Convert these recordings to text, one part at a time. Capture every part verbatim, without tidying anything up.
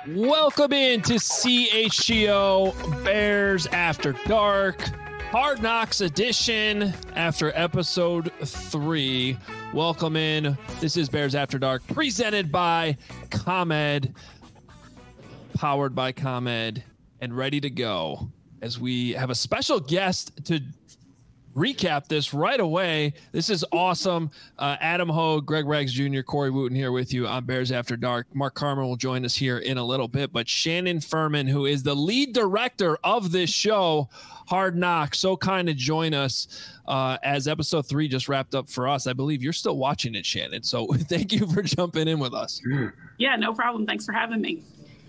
Welcome in to C H G O Bears After Dark, Hard Knocks edition after episode three. Welcome in. This is Bears After Dark, presented by ComEd, powered by ComEd, and ready to go as we have a special guest to recap this right away. This is awesome. Uh, Adam Hogue, Greg Rags Junior, Corey Wooten here with you on Bears After Dark. Mark Carmen will join us here in a little bit, but Shannon Furman, who is the lead director of this show, Hard Knocks, so kind to join us uh, as episode three just wrapped up for us. I believe you're still watching it, Shannon, so thank you for jumping in with us. Yeah, no problem. Thanks for having me.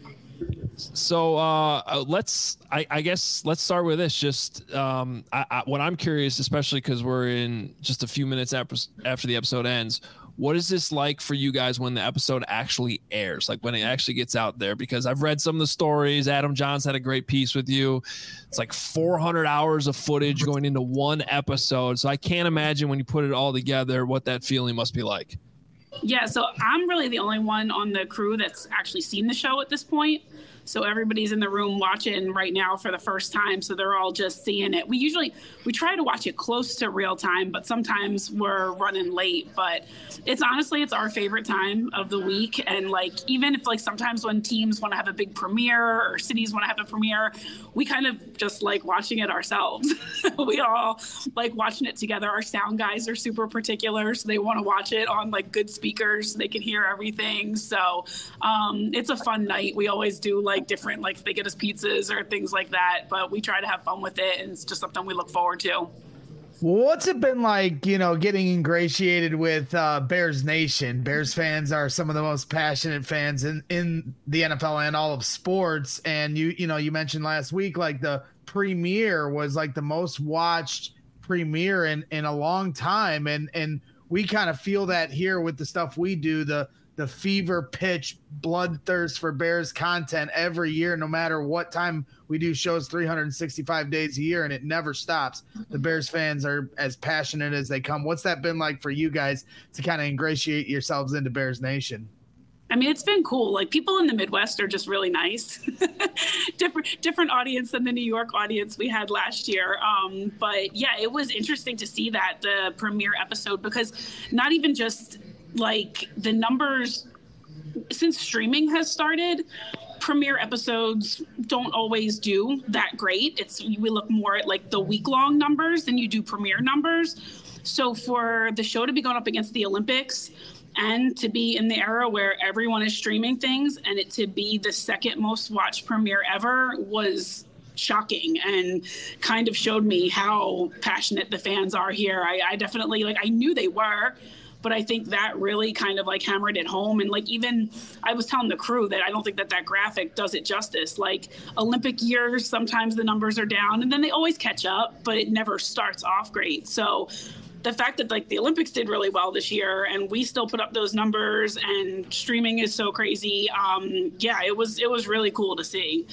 So uh, let's, I, I guess, let's start with this. Just um, I, I, what I'm curious, especially because we're in just a few minutes after, after the episode ends, what is this like for you guys when the episode actually airs, like when it actually gets out there? Because I've read some of the stories. Adam Johns had a great piece with you. It's like four hundred hours of footage going into one episode. So I can't imagine when you put it all together what that feeling must be like. Yeah, so I'm really the only one on the crew that's actually seen the show at this point. So everybody's in the room watching right now for the first time. So they're all just seeing it. We usually, we try to watch it close to real time, but sometimes we're running late. But it's honestly, it's our favorite time of the week. And like, even if like sometimes when teams want to have a big premiere or cities want to have a premiere, we kind of just like watching it ourselves. We all like watching it together. Our sound guys are super particular. So they want to watch it on like good speakers so they can hear everything. So um, it's a fun night. We always do like, like different, like they get us pizzas or things like that, but we try to have fun with it, and it's just something we look forward to. What's it been like, you know, getting ingratiated with uh, Bears Nation? Bears fans are some of the most passionate fans in, in the N F L and all of sports. And you, you know, you mentioned last week, like the premiere was like the most watched premiere in, in a long time. And, and we kind of feel that here with the stuff we do, the, the fever pitch bloodthirst for Bears content every year, no matter what time we do shows, three hundred sixty-five days a year, and it never stops. The Bears fans are as passionate as they come. What's that been like for you guys to kind of ingratiate yourselves into Bears Nation? I mean, it's been cool. Like people in the Midwest are just really nice. different, different audience than the New York audience we had last year. Um, but yeah, it was interesting to see that the premiere episode, because not even just like the numbers, since streaming has started, premiere episodes don't always do that great. It's we look more at like the week-long numbers than you do premiere numbers. So for the show to be going up against the Olympics and to be in the era where everyone is streaming things and it to be the second most watched premiere ever was shocking and kind of showed me how passionate the fans are here. I, I definitely, like, I knew they were, but I think that really kind of like hammered it home. And like, even I was telling the crew that I don't think that that graphic does it justice. Like Olympic years, sometimes the numbers are down and then they always catch up, but it never starts off great. So the fact that like the Olympics did really well this year and we still put up those numbers and streaming is so crazy. Um, yeah, it was, it was really cool to see.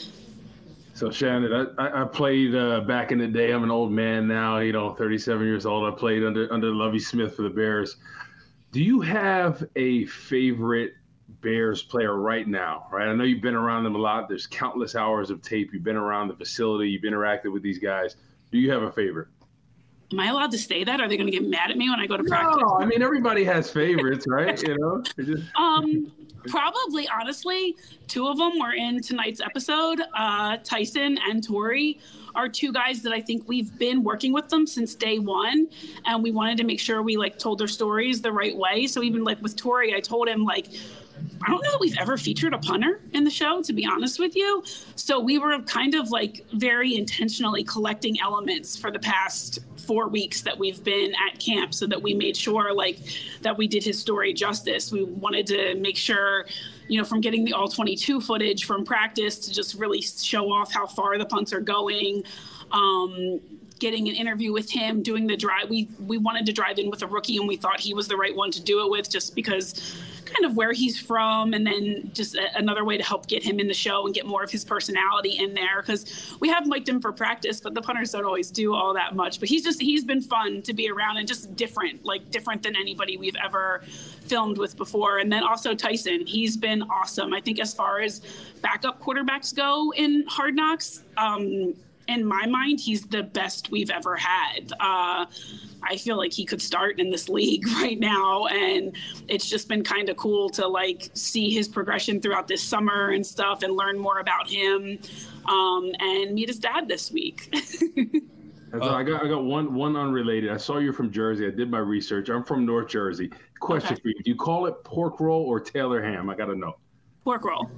So Shannon, I, I played uh, back in the day. I'm an old man now, you know, thirty-seven years old. I played under, under Lovie Smith for the Bears. Do you have a favorite Bears player right now, right? I know you've been around them a lot. There's countless hours of tape. You've been around the facility. You've interacted with these guys. Do you have a favorite? Am I allowed to say that? Are they going to get mad at me when I go to practice? No, I mean, everybody has favorites, right? You know? Just... Um, probably, honestly, two of them were in tonight's episode. Uh, Tyson and Tori are two guys that I think we've been working with them since day one. And we wanted to make sure we like told their stories the right way. So even like with Tori, I told him like, I don't know that we've ever featured a punter in the show, to be honest with you. So we were kind of like very intentionally collecting elements for the past four weeks that we've been at camp so that we made sure like that we did his story justice. We wanted to make sure, you know, from getting the all twenty-two footage from practice to just really show off how far the punts are going. Um, getting an interview with him, doing the drive. We, we wanted to drive in with a rookie and we thought he was the right one to do it with just because kind of where he's from, and then just a, another way to help get him in the show and get more of his personality in there, because we have mic'd him for practice, but the punters don't always do all that much. But he's just he's been fun to be around and just different, like different than anybody we've ever filmed with before. And then also Tyson, he's been awesome. I think as far as backup quarterbacks go in Hard Knocks, um, in my mind, he's the best we've ever had. Uh, I feel like he could start in this league right now, and it's just been kind of cool to like see his progression throughout this summer and stuff, and learn more about him, um, and meet his dad this week. uh, I got I got one one unrelated. I saw you're from Jersey. I did my research. I'm from North Jersey. Question okay. for you: do you call it pork roll or Taylor ham? I got to know. Pork roll.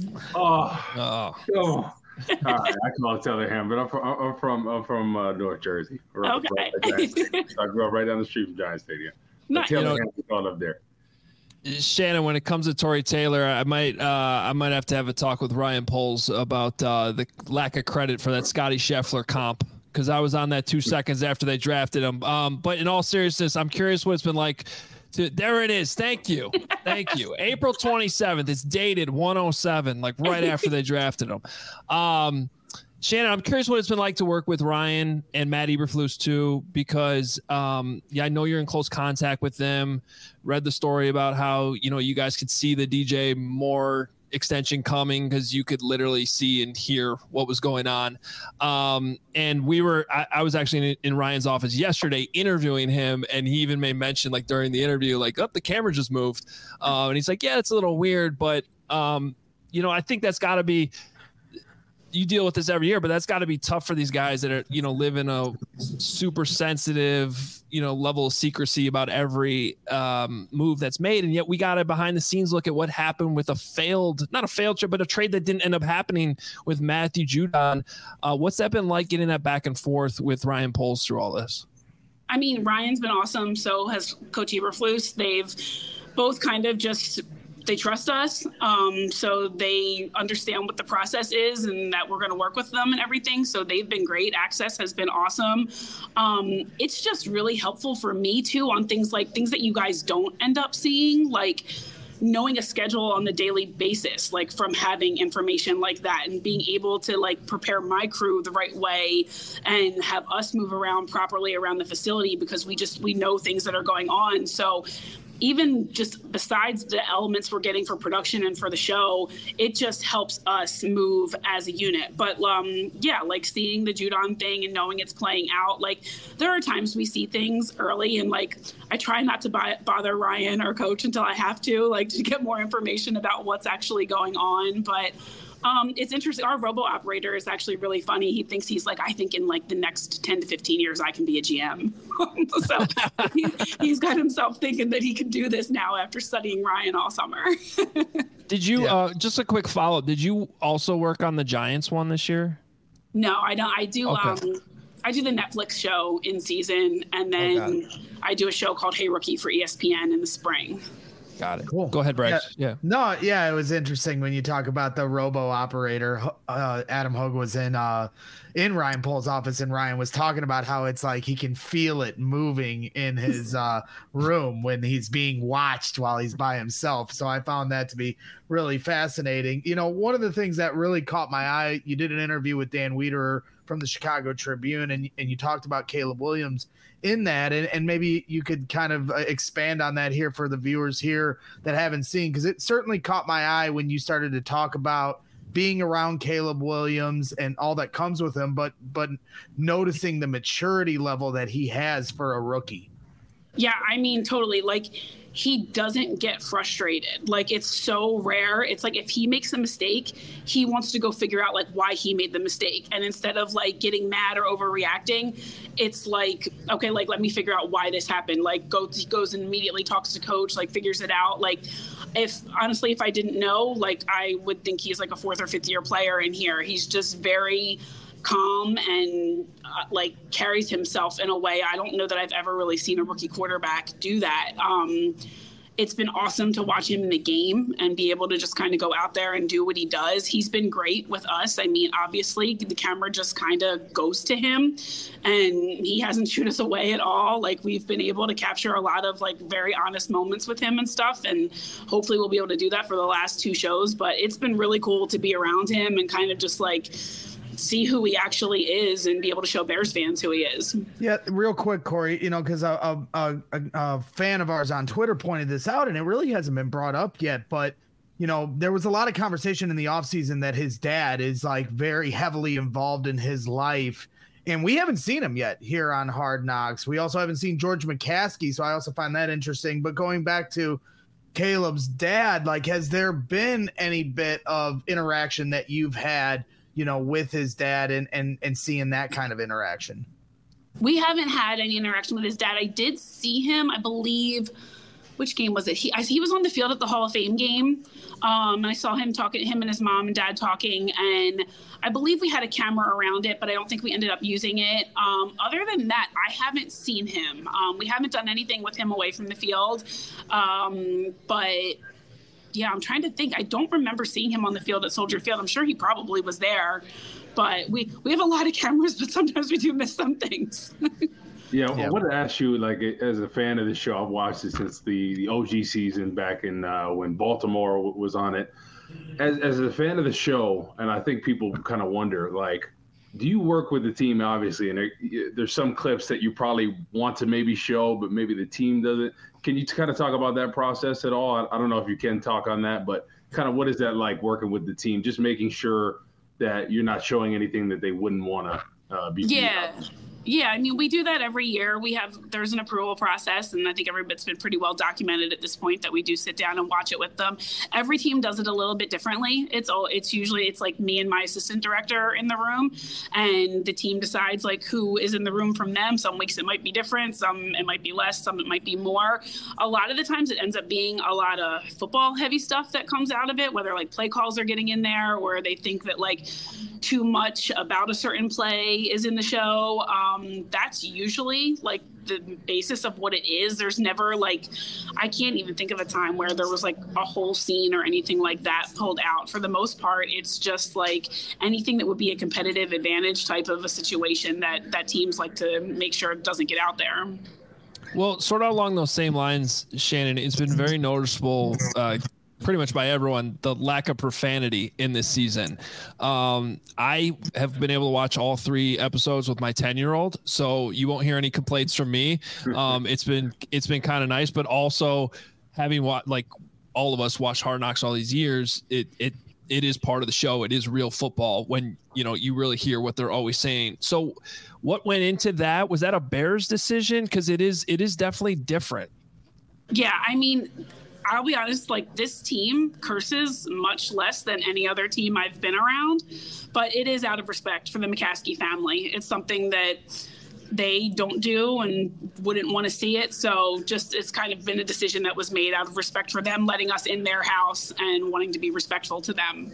Oh, oh. oh. All right, I call it Taylor ham, but I'm from I'm from I'm from uh, North Jersey. Right, okay. Right so I grew up right down the street from Giant Stadium. Nice. Taylor you know, ham is all up there. Shannon, when it comes to Tory Taylor, I might uh, I might have to have a talk with Ryan Poles about uh, the lack of credit for that Scotty Scheffler comp, because I was on that two seconds after they drafted him. Um, but in all seriousness, I'm curious what it's been like. To, there it is. Thank you. Thank you. April twenty-seventh. It's dated one oh seven, like right after they drafted him. Um, Shannon, I'm curious what it's been like to work with Ryan and Matt Eberflus too, because um, yeah, I know you're in close contact with them. Read the story about how, you know, you guys could see the D J Moore extension coming because you could literally see and hear what was going on. Um, and we were, I, I was actually in, in Ryan's office yesterday interviewing him, and he even made mention like during the interview, like, oh, the camera just moved. Uh, and he's like, yeah, it's a little weird, but um, you know, I think that's gotta be, you deal with this every year, but that's got to be tough for these guys that are, you know, live in a super sensitive, you know, level of secrecy about every um, move that's made. And yet we got to behind the scenes look at what happened with a failed, not a failed trade, but a trade that didn't end up happening with Matthew Judon. Uh, what's that been like, getting that back and forth with Ryan Poles through all this? I mean, Ryan's been awesome. So has Coach Eberflus. They've both kind of just, they trust us, um, so they understand what the process is and that we're going to work with them and everything. So they've been great. Access has been awesome. Um, it's just really helpful for me too on things like things that you guys don't end up seeing, like knowing a schedule on the daily basis, like from having information like that and being able to like prepare my crew the right way and have us move around properly around the facility, because we just, we know things that are going on. So even just besides the elements we're getting for production and for the show, it just helps us move as a unit. But um, yeah, like seeing the Judon thing and knowing it's playing out, like there are times we see things early and like I try not to buy, bother Ryan or Coach until I have to, like to get more information about what's actually going on. But Um, it's interesting. Our robo operator is actually really funny. He thinks he's like, I think in like the next ten to fifteen years, I can be a G M. So he, he's got himself thinking that he can do this now after studying Ryan all summer. Did you, yeah. uh, just a quick follow up, did you also work on the Giants one this year? No, I don't. I do. Okay. Um, I do the Netflix show in season, and then oh, I do a show called Hey Rookie for E S P N in the spring. Got it. Cool. Go ahead, Bryce. Yeah. yeah. No, yeah, it was interesting when you talk about the robo operator. Uh, Adam Hogue was in uh, in Ryan Poles' office, and Ryan was talking about how it's like he can feel it moving in his uh, room when he's being watched while he's by himself. So I found that to be really fascinating. You know, one of the things that really caught my eye, you did an interview with Dan Wiederer from the Chicago Tribune, and, and you talked about Caleb Williams in that, and, and maybe you could kind of expand on that here for the viewers here that haven't seen, because it certainly caught my eye when you started to talk about being around Caleb Williams and all that comes with him, but but noticing the maturity level that he has for a rookie. Yeah, I mean, totally. Like, he doesn't get frustrated. Like, it's so rare. It's like if he makes a mistake, he wants to go figure out like why he made the mistake. And instead of like getting mad or overreacting, it's like, okay, like let me figure out why this happened. Like goes, he goes and immediately talks to Coach, like figures it out. Like if honestly, if I didn't know, like I would think he's like a fourth or fifth year player in here. He's just very calm and uh, like carries himself in a way I don't know that I've ever really seen a rookie quarterback do that. Um, it's been awesome to watch him in the game and be able to just kind of go out there and do what he does. He's been great with us. I mean, obviously the camera just kind of goes to him and he hasn't shooed us away at all. Like, we've been able to capture a lot of like very honest moments with him and stuff. And hopefully we'll be able to do that for the last two shows, but it's been really cool to be around him and kind of just like see who he actually is and be able to show Bears fans who he is. Yeah, real quick, Corey, you know, because a, a, a, a fan of ours on Twitter pointed this out, and it really hasn't been brought up yet, but, you know, there was a lot of conversation in the offseason that his dad is, like, very heavily involved in his life, and we haven't seen him yet here on Hard Knocks. We also haven't seen George McCaskey, so I also find that interesting. But going back to Caleb's dad, like, has there been any bit of interaction that you've had, you know, with his dad and, and, and seeing that kind of interaction? We haven't had any interaction with his dad. I did see him, I believe, which game was it? He I, he was on the field at the Hall of Fame game. Um, I saw him talking, him and his mom and dad talking, and I believe we had a camera around it, but I don't think we ended up using it. Um, other than that, I haven't seen him. Um, we haven't done anything with him away from the field. Um, but yeah, I'm trying to think. I don't remember seeing him on the field at Soldier Field. I'm sure he probably was there, but we, we have a lot of cameras, but sometimes we do miss some things. Yeah, Yeah. I want to ask you, like, as a fan of the show, I've watched it since the, the O G season back in uh, when Baltimore w- was on it. As, as a fan of the show, and I think people kind of wonder, like, do you work with the team, obviously, and there, there's some clips that you probably want to maybe show, but maybe the team doesn't. Can you kind of talk about that process at all? I, I don't know if you can talk on that, but kind of what is that like working with the team, just making sure that you're not showing anything that they wouldn't want to uh, be. Yeah. Yeah, I mean, we do that every year. We have, there's an approval process, and I think everybody's been pretty well documented at this point that we do sit down and watch it with them. Every team does it a little bit differently. It's all, it's usually, it's like me and my assistant director in the room, and the team decides like who is in the room from them. Some weeks it might be different, some it might be less, some it might be more. A lot of the times it ends up being a lot of football heavy stuff that comes out of it, whether like play calls are getting in there, or they think that like too much about a certain play is in the show. Um, that's usually like the basis of what it is. There's never like, I can't even think of a time where there was like a whole scene or anything like that pulled out. For the most part, it's just like anything that would be a competitive advantage type of a situation that, that teams like to make sure it doesn't get out there. Well, sort of along those same lines, Shannon, it's been very noticeable, uh, pretty much by everyone, the lack of profanity in this season. Um, I have been able to watch all three episodes with my ten year old, so you won't hear any complaints from me. Um, it's been, it's been kind of nice, but also having what, like all of us watched Hard Knocks all these years, it, it, it is part of the show. It is real football when, you know, you really hear what they're always saying. So what went into that? Was that a Bears decision? Cause it is, it is definitely different. Yeah. I mean, I'll be honest, like this team curses much less than any other team I've been around, but it is out of respect for the McCaskey family. It's something that they don't do and wouldn't want to see it. So just, it's kind of been a decision that was made out of respect for them, letting us in their house and wanting to be respectful to them.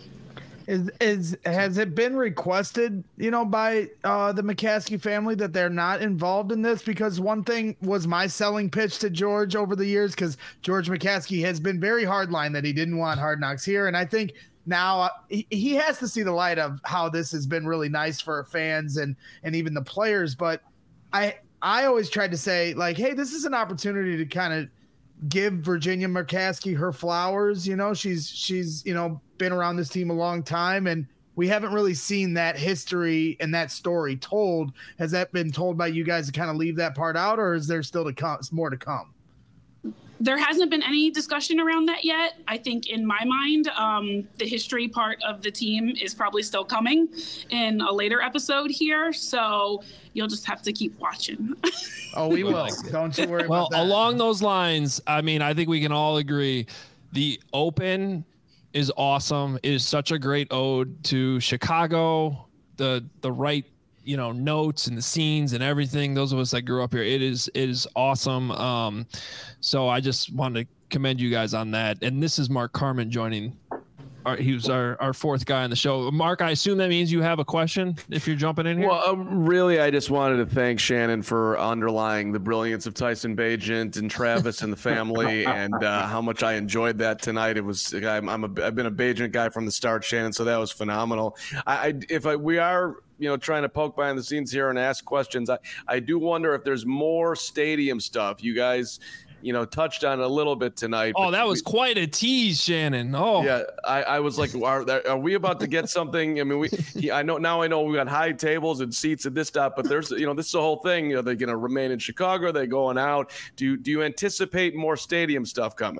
Is is has it been requested, you know, by uh, the McCaskey family that they're not involved in this? Because one thing was my selling pitch to George over the years, because George McCaskey has been very hardline that he didn't want Hard Knocks here, and I think now uh, he, he has to see the light of how this has been really nice for fans and and even the players. But I I always tried to say like, hey, this is an opportunity to kind of give Virginia McCaskey her flowers. You know, she's she's you know been around this team a long time, and we haven't really seen that history and that story told. Has that been told by you guys to kind of leave that part out, or is there still to come more to come? There hasn't been any discussion around that yet. I think in my mind, um, the history part of the team is probably still coming in a later episode here. So you'll just have to keep watching. Oh, we will. Don't you worry Well, about that. along those lines, I mean, I think we can all agree the open is awesome. It is such a great ode to Chicago, the the right, you know, notes and the scenes and everything. Those of us that grew up here, it is it is awesome. Um, so I just wanted to commend you guys on that. And this is Mark Carman joining our, he was our, our fourth guy on the show. Mark, I assume that means you have a question if you're jumping in here. Well, um, really, I just wanted to thank Shannon for underlying the brilliance of Tyson Bagent and Travis and the family, and uh, how much I enjoyed that tonight. It was I'm, I'm a, I've been a Bagent guy from the start, Shannon, so that was phenomenal. I, I if I we are. you know, trying to poke behind the scenes here and ask questions. I, I do wonder if there's more stadium stuff. You guys, you know, touched on it a little bit tonight. Oh, that was we, quite a tease, Shannon. Oh, yeah. I, I was like, are, are we about to get something? I mean, we, he, I know now I know we got high tables and seats at this stop, but there's, you know, this is the whole thing. Are they going to remain in Chicago? Are they going out? Do you, do you anticipate more stadium stuff coming?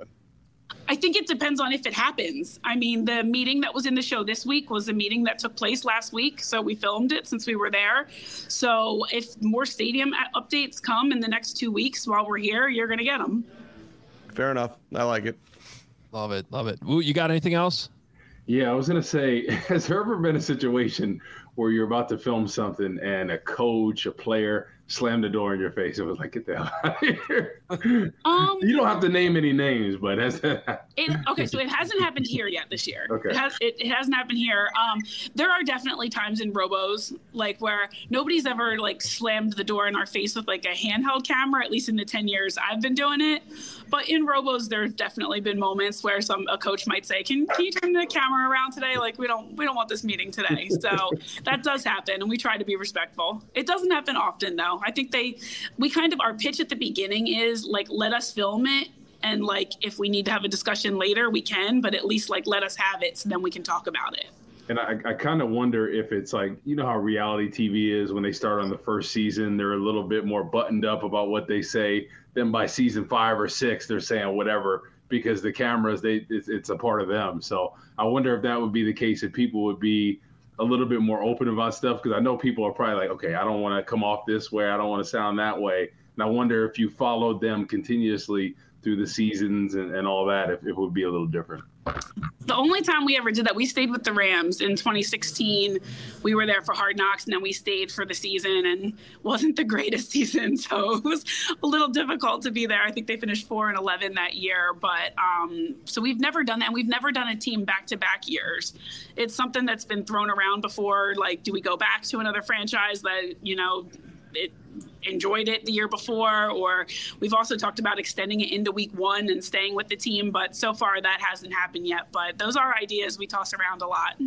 I think it depends on if it happens. I mean, the meeting that was in the show this week was a meeting that took place last week. So we filmed it since we were there. So if more stadium updates come in the next two weeks while we're here, you're going to get them. Fair enough. I like it. Love it. Love it. Ooh, you got anything else? Yeah, I was going to say, has there ever been a situation where you're about to film something and a coach, a player, slammed the door in your face? It was like, get the hell out of here. Um, you don't have to name any names, but has that it, okay, so it hasn't happened here yet this year. Okay. It, has, it, it hasn't happened here. Um, there are definitely times in Robos, like where nobody's ever like slammed the door in our face with like a handheld camera, at least in the ten years I've been doing it. But in Robos, there's definitely been moments where some a coach might say, can, can you turn the camera around today? Like, we don't we don't want this meeting today. So that does happen, and we try to be respectful. It doesn't happen often, though. I think they, we kind of, our pitch at the beginning is like, let us film it. And like, if we need to have a discussion later, we can, but at least like, let us have it so then we can talk about it. And I, I kind of wonder if it's like, you know how reality T V is when they start on the first season, they're a little bit more buttoned up about what they say. Then by season five or six, they're saying whatever because the cameras, they it's, it's a part of them. So I wonder if that would be the case, if people would be a little bit more open about stuff, because I know people are probably like, okay, I don't want to come off this way. I don't want to sound that way. And I wonder if you followed them continuously through the seasons and, and all that, if, if it would be a little different. The only time we ever did that, we stayed with the Rams in twenty sixteen. We were there for Hard Knocks, and then we stayed for the season, and wasn't the greatest season. So it was a little difficult to be there. I think they finished four and eleven that year. But um, so we've never done that. And we've never done a team back-to-back years. It's something that's been thrown around before. Like, do we go back to another franchise that, you know, it enjoyed it the year before? Or we've also talked about extending it into week one and staying with the team, but so far that hasn't happened yet. But those are ideas we toss around a lot.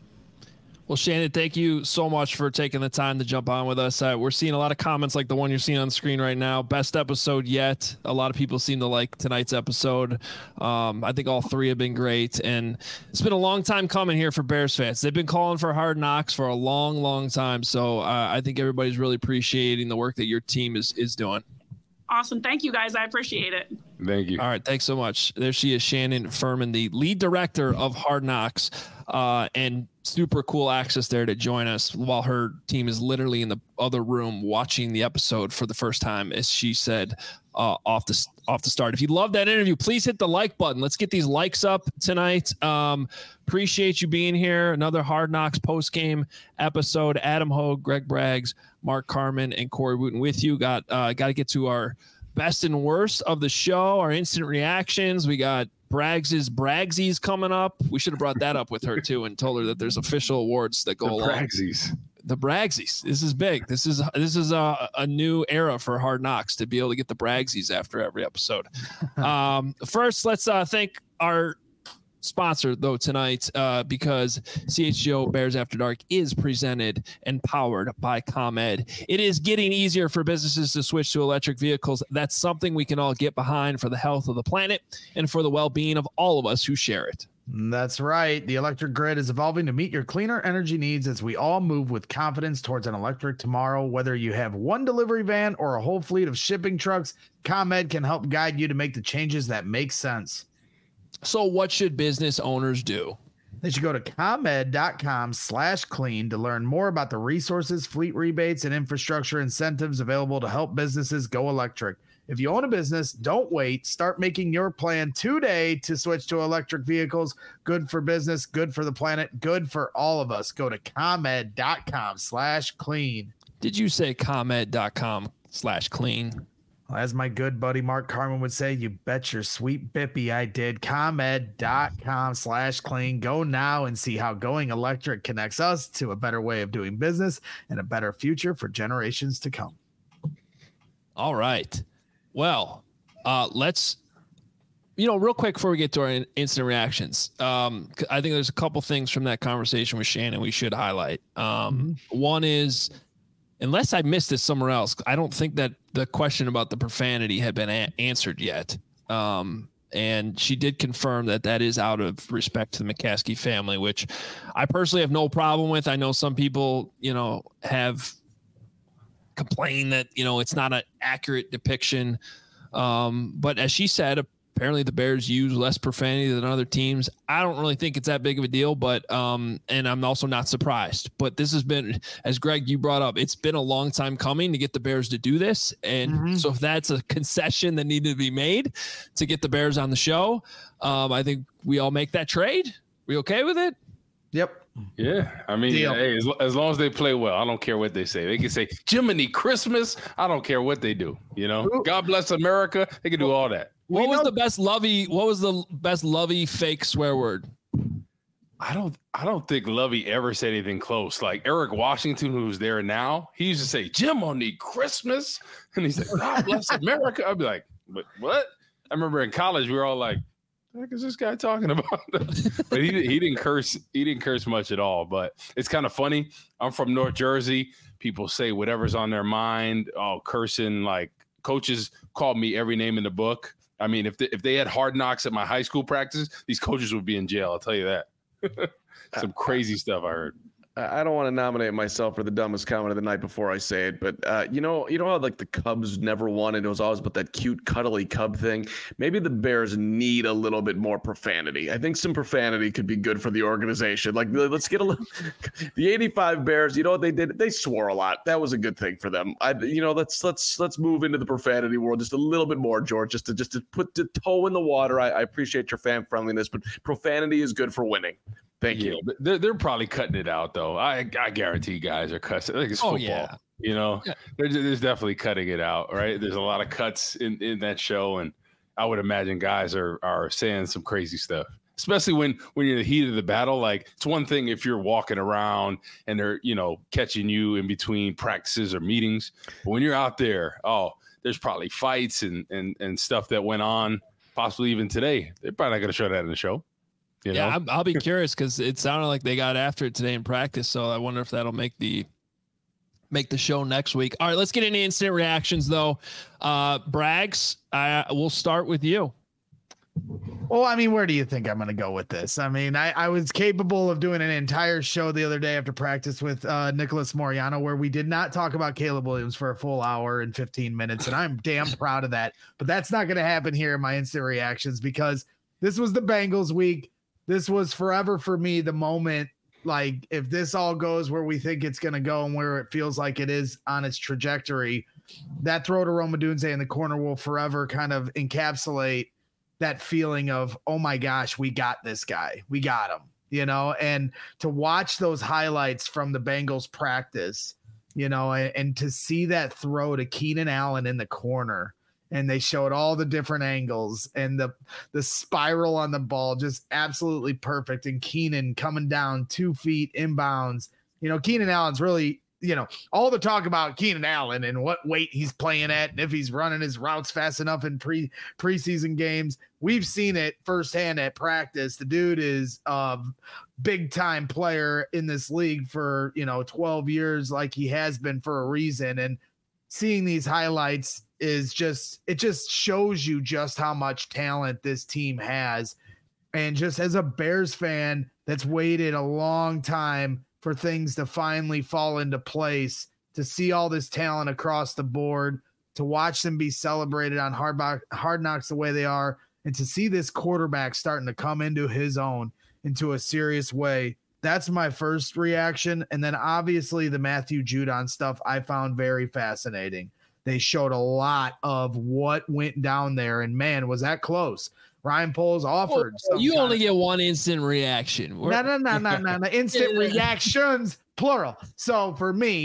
Well, Shannon, thank you so much for taking the time to jump on with us. Uh, we're seeing a lot of comments like the one you're seeing on the screen right now. Best episode yet. A lot of people seem to like tonight's episode. Um, I think all three have been great. And it's been a long time coming here for Bears fans. They've been calling for Hard Knocks for a long, long time. So uh, I think everybody's really appreciating the work that your team is is doing. Awesome. Thank you, guys. I appreciate it. Thank you. All right. Thanks so much. There she is, Shannon Furman, the lead director of Hard Knocks, uh, and super cool access there to join us while her team is literally in the other room watching the episode for the first time, as she said, uh, off the off the start. If you love that interview, please hit the like button. Let's get these likes up tonight. Um, appreciate you being here. Another Hard Knocks post game episode. Adam Hogue, Greg Braggs, Mark Carman, and Corey Wooten with you. Got uh, got to get to our best and worst of the show, our instant reactions. We got Braggs's Braggsies coming up. We should have brought that up with her too and told her that there's official awards that go the along. Braggsies. The Braggsies. This is big. This is this is a, a new era for Hard Knocks to be able to get the Braggsies after every episode. um, first, let's uh, thank our sponsor though tonight, uh, because C H G O Bears After Dark is presented and powered by ComEd. It is getting easier for businesses to switch to electric vehicles. That's something we can all get behind for the health of the planet and for the well-being of all of us who share it. That's right. The electric grid is evolving to meet your cleaner energy needs as we all move with confidence towards an electric tomorrow. Whether you have one delivery van or a whole fleet of shipping trucks, ComEd can help guide you to make the changes that make sense. So what should business owners do? They should go to ComEd.com slash clean to learn more about the resources, fleet rebates, and infrastructure incentives available to help businesses go electric. If you own a business, don't wait. Start making your plan today to switch to electric vehicles. Good for business, good for the planet, good for all of us. Go to ComEd.com slash clean. Did you say ComEd.com slash clean? As my good buddy Mark Carman would say, you bet your sweet bippy I did. ComEd.com slash clean. Go now and see how going electric connects us to a better way of doing business and a better future for generations to come. All right. Well, uh, let's, you know, real quick before we get to our in- instant reactions. Um, I think there's a couple things from that conversation with Shannon we should highlight. Um, mm-hmm. One is, unless I missed this somewhere else, I don't think that the question about the profanity had been a- answered yet. Um, and she did confirm that that is out of respect to the McCaskey family, which I personally have no problem with. I know some people, you know, have complained that, you know, it's not an accurate depiction. Um, but as she said, apparently the Bears use less profanity than other teams. I don't really think it's that big of a deal, but um, and I'm also not surprised. But this has been, as Greg, you brought up, it's been a long time coming to get the Bears to do this. And mm-hmm. so if that's a concession that needed to be made to get the Bears on the show, um, I think we all make that trade. We okay with it? Yep. Yeah, I mean, hey, as, as long as they play well, I don't care what they say. They can say Jiminy Christmas. I don't care what they do. You know, Ooh. God bless America. They can do all that. What was the best Lovey? What was the best Lovey fake swear word? I don't. I don't think Lovey ever said anything close. Like Eric Washington, who's there now, he used to say Jiminy Christmas, and he's like, God bless America. I'd be like, but what? I remember in college we were all like, what is this guy talking about? But he he didn't curse. He didn't curse much at all. But it's kind of funny. I'm from North Jersey. People say whatever's on their mind. Oh, cursing. Like coaches called me every name in the book. I mean, if they, if they had Hard Knocks at my high school practice, these coaches would be in jail. I'll tell you that. Some crazy stuff I heard. I don't want to nominate myself for the dumbest comment of the night before I say it, but uh, you know, you know how like the Cubs never won, and it was always about that cute, cuddly Cub thing. Maybe the Bears need a little bit more profanity. I think some profanity could be good for the organization. Like, let's get a little. The eighty-five Bears, you know what they did? They swore a lot. That was a good thing for them. I, you know, let's let's let's move into the profanity world just a little bit more, George. Just to just to put the toe in the water. I, I appreciate your fan friendliness, but profanity is good for winning. Thank yeah, you. But they're, they're probably cutting it out, though. I I guarantee you guys are cussing. Like it's oh, football. Yeah. You know, yeah. there's, there's definitely cutting it out, right? There's a lot of cuts in, in that show. And I would imagine guys are are saying some crazy stuff, especially when, when you're in the heat of the battle. Like it's one thing if you're walking around and they're, you know, catching you in between practices or meetings. But when you're out there, oh, there's probably fights and, and, and stuff that went on, possibly even today. They're probably not going to show that in the show. You know? Yeah, I'm, I'll be curious because it sounded like they got after it today in practice. So I wonder if that'll make the make the show next week. All right, let's get into instant reactions though. Uh, Braggs, I we'll start with you. Well, I mean, where do you think I'm going to go with this? I mean, I, I was capable of doing an entire show the other day after practice with uh, Nicholas Moriano, where we did not talk about Caleb Williams for a full hour and fifteen minutes. And I'm damn proud of that. But that's not going to happen here in my instant reactions because this was the Bengals week. This was forever for me the moment, like if this all goes where we think it's going to go and where it feels like it is on its trajectory, that throw to Rome Odunze in the corner will forever kind of encapsulate that feeling of, oh my gosh, we got this guy. We got him, you know, and to watch those highlights from the Bengals practice, you know, and, and to see that throw to Keenan Allen in the corner. And they showed all the different angles and the the spiral on the ball, just absolutely perfect. And Keenan coming down two feet inbounds. You know, Keenan Allen's really, you know, all the talk about Keenan Allen and what weight he's playing at and if he's running his routes fast enough in pre preseason games. We've seen it firsthand at practice. The dude is a big time player in this league for, you know, twelve years, like he has been for a reason. And seeing these highlights is just, it just shows you just how much talent this team has. And just as a Bears fan that's waited a long time for things to finally fall into place, to see all this talent across the board, to watch them be celebrated on Hard, hard Knocks the way they are, and to see this quarterback starting to come into his own into a serious way. That's my first reaction. And then obviously the Matthew Judon stuff I found very fascinating. They showed a lot of what went down there, and man, was that close. Ryan Poles offered. Well, you only get one instant reaction. No, no, no, no, no, no. Instant reactions, plural. So for me,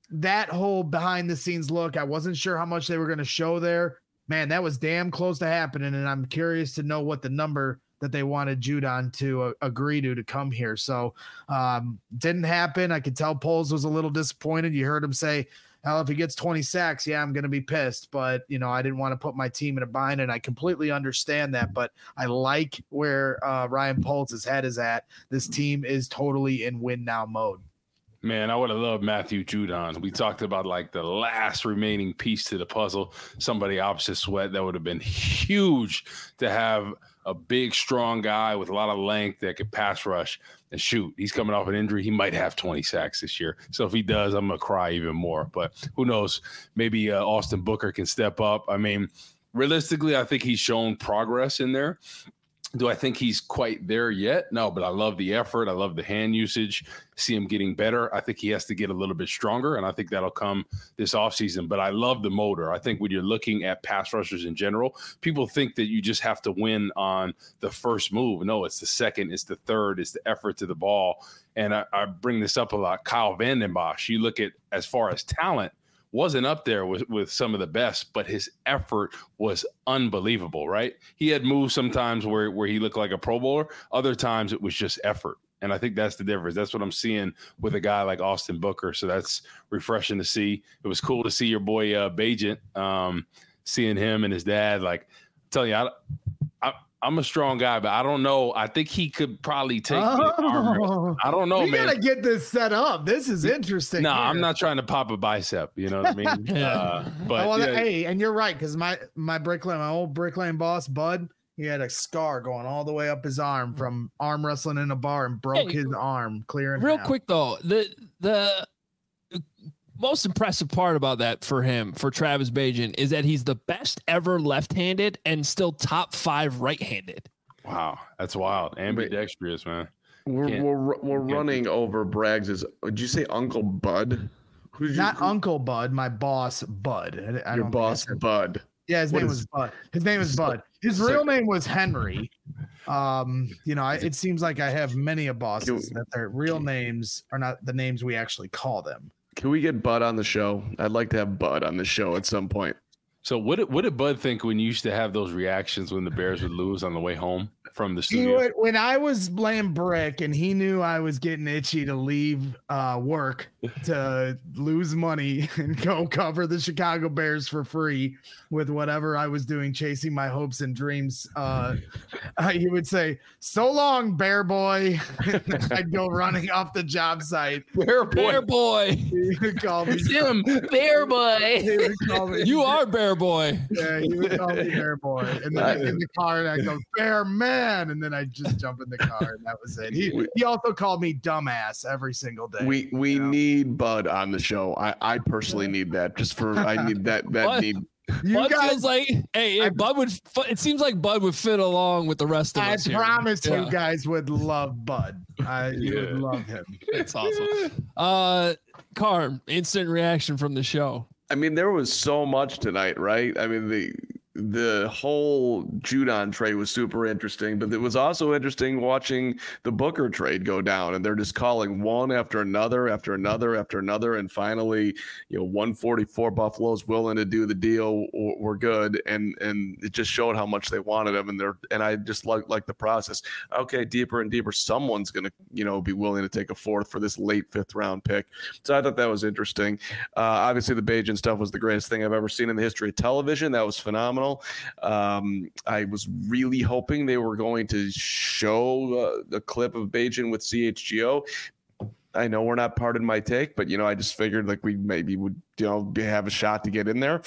that whole behind the scenes look, I wasn't sure how much they were going to show there. Man, that was damn close to happening. And I'm curious to know what the number that they wanted Judon to uh, agree to to come here. So um, didn't happen. I could tell Poles was a little disappointed. You heard him say, hell, if he gets twenty sacks, yeah, I'm going to be pissed. But, you know, I didn't want to put my team in a bind, and I completely understand that. But I like where uh, Ryan Poles' head is at. This team is totally in win now mode. Man, I would have loved Matthew Judon. We talked about like the last remaining piece to the puzzle, somebody opposite Sweat. That would have been huge to have a big, strong guy with a lot of length that could pass rush and shoot. He's coming off an injury. He might have twenty sacks this year. So if he does, I'm going to cry even more. But who knows? Maybe uh, Austin Booker can step up. I mean, realistically, I think he's shown progress in there. Do I think he's quite there yet? No, but I love the effort. I love the hand usage. See him getting better. I think he has to get a little bit stronger, and I think that'll come this offseason. But I love the motor. I think when you're looking at pass rushers in general, people think that you just have to win on the first move. No, it's the second, it's the third, it's the effort to the ball. And I, I bring this up a lot. Kyle Vanden Bosch, you look at as far as talent, wasn't up there with, with some of the best, but his effort was unbelievable, right? He had moves sometimes where, where he looked like a Pro Bowler. Other times it was just effort. And I think that's the difference. That's what I'm seeing with a guy like Austin Booker. So that's refreshing to see. It was cool to see your boy uh, Bagent, um, seeing him and his dad. Like, I'm telling you, I, I, I'm a strong guy, but I don't know. I think he could probably take oh, me to arm. I don't know, we man. We got to get this set up. This is interesting. No, here. I'm not trying to pop a bicep. You know what I mean? yeah. uh, but oh, well, yeah. Hey, and you're right, because my, my Brick Lane, my old Brick Lane boss, Bud, he had a scar going all the way up his arm from arm wrestling in a bar and broke hey, his arm clear in Real half. quick, though, the the most impressive part about that for him, for Travis Bagent, is that he's the best ever left-handed and still top five right-handed. Wow, that's wild. Ambidextrous, man. We're Can't- we're, we're running over Braggs'. Did you say Uncle Bud? Who's Not your, Uncle Bud, my boss, Bud. I, I your don't think I boss, said- Bud? Yeah, his What name is- was Bud. His name is Bud. His it's real like- name was Henry. Um, you know, I, it seems like I have many a bosses Can- that their real names are not the names we actually call them. Can we get Bud on the show? I'd like to have Bud on the show at some point. So what did, what did Bud think when you used to have those reactions when the Bears would lose on the way home from the He studio? would, when I was playing brick and he knew I was getting itchy to leave uh, work to lose money and go cover the Chicago Bears for free with whatever I was doing, chasing my hopes and dreams, uh, uh, he would say, "So long, Bear Boy." I'd go running off the job site. Bear Bear boy. He would call me Jim, Bear boy. He would call me. You are Bear boy. Yeah, he would call me Bear Boy, and then I get in the car and I go Bear Man, and then I just jump in the car, and that was it. He he also called me dumbass every single day. We we you know? need Bud on the show. I, I personally need that just for I need that that What? need. You Bud guys, feels like, hey, hey I- Bud would. fu- It seems like Bud would fit along with the rest of I us here. promise Yeah. you guys would love Bud. I you would Yeah. love him. That's awesome. Uh, Carm, instant reaction from the show. I mean, there was so much tonight, right? I mean, the the whole Judon trade was super interesting, but it was also interesting watching the Booker trade go down, and they're just calling one after another, after another, after another, and finally, you know, one forty-four Buffalo's willing to do the deal. We're good, and and it just showed how much they wanted him, and they're and I just like like the process. Okay, deeper and deeper, someone's gonna you know be willing to take a fourth for this late fifth round pick. So I thought that was interesting. Uh, obviously, the Bagent stuff was the greatest thing I've ever seen in the history of television. That was phenomenal. Um, I was really hoping they were going to show uh, a clip of Bagent with C H G O. I know we're not part of my take, but you know, I just figured like we maybe would you know have a shot to get in there.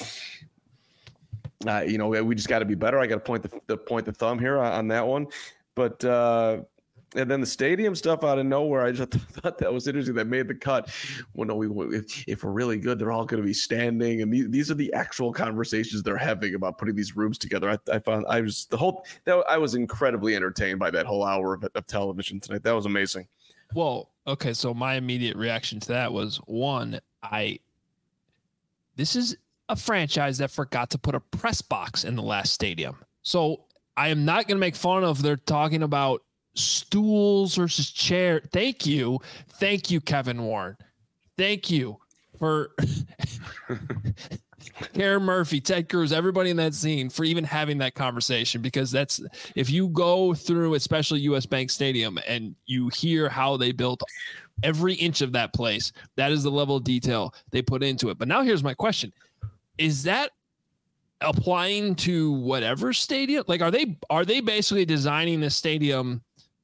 Uh, you know, we just got to be better. I got to point the, the point the thumb here on, on that one, but. Uh, And then the stadium stuff out of nowhere, I just thought that was interesting. That made the cut. Well, no, we if, if we're really good, they're all going to be standing, and these, these are the actual conversations they're having about putting these rooms together. I, I found I was the whole that I was incredibly entertained by that whole hour of, of television tonight. That was amazing. Well, okay, so my immediate reaction to that was one, I this is a franchise that forgot to put a press box in the last stadium. So I am not going to make fun of they're talking about stools versus chair. Thank you. Thank you, Kevin Warren. Thank you. for Karen Murphy, Ted Cruz, everybody in that scene for even having that conversation, because that's, if you go through especially U S Bank Stadium and you hear how they built every inch of that place, that is the level of detail they put into it. But now here's my question. Is that applying to whatever stadium? Like, are they, are they basically designing this stadium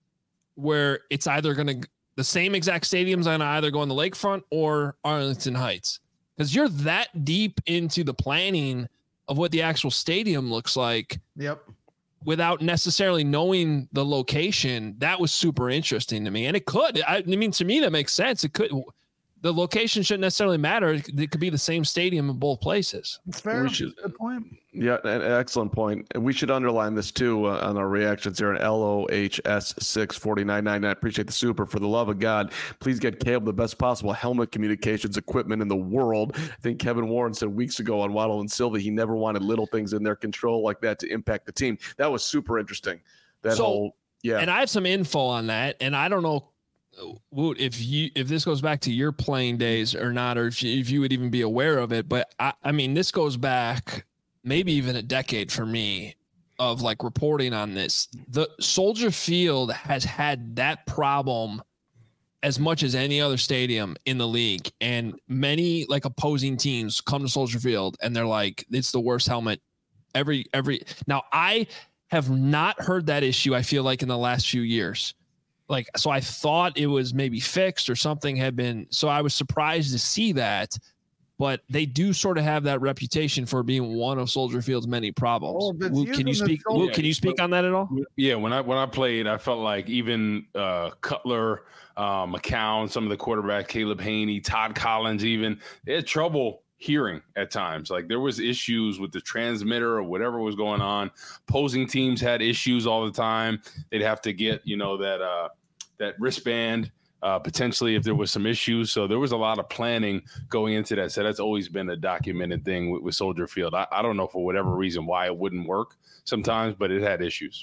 where it's either going to, the same exact stadium's going to either go on the lakefront or Arlington Heights? Because you're that deep into the planning of what the actual stadium looks like. Yep. Without necessarily knowing the location. That was super interesting to me. And it could, I, I mean, to me, that makes sense. It could, the location shouldn't necessarily matter. It could be the same stadium in both places. It's fair. We should, Good point. Yeah, an excellent point. And we should underline this too uh, on our reactions here at L O H S six forty-nine ninety-nine. I appreciate the super. For the love of God, please get Caleb the best possible helmet communications equipment in the world. I think Kevin Warren said weeks ago on Waddle and Silva he never wanted little things in their control like that to impact the team. That was super interesting. That so, whole yeah. And I have some info on that, and I don't know Woot, if you if this goes back to your playing days or not, or if you, if you would even be aware of it. But I, I mean, this goes back maybe even a decade for me of like reporting on this. The Soldier Field has had that problem as much as any other stadium in the league, and many like opposing teams come to Soldier Field and they're like, it's the worst helmet every every. Now I have not heard that issue. I feel like in the last few years. Like, so I thought it was maybe fixed or something had been, so I was surprised to see that, but they do sort of have that reputation for being one of Soldier Field's many problems. Oh, Luke, can you speak, Luke, can you speak on that at all? Yeah. When I, when I played, I felt like even uh, Cutler, uh, McCown, some of the quarterback, Caleb Haney, Todd Collins, even they had trouble hearing at times. Like there was issues with the transmitter or whatever was going on. Opposing teams had issues all the time. They'd have to get, you know, that, uh, that wristband, uh, potentially if there was some issues. So there was a lot of planning going into that. So that's always been a documented thing with, with Soldier Field. I, I don't know for whatever reason why it wouldn't work sometimes, but it had issues.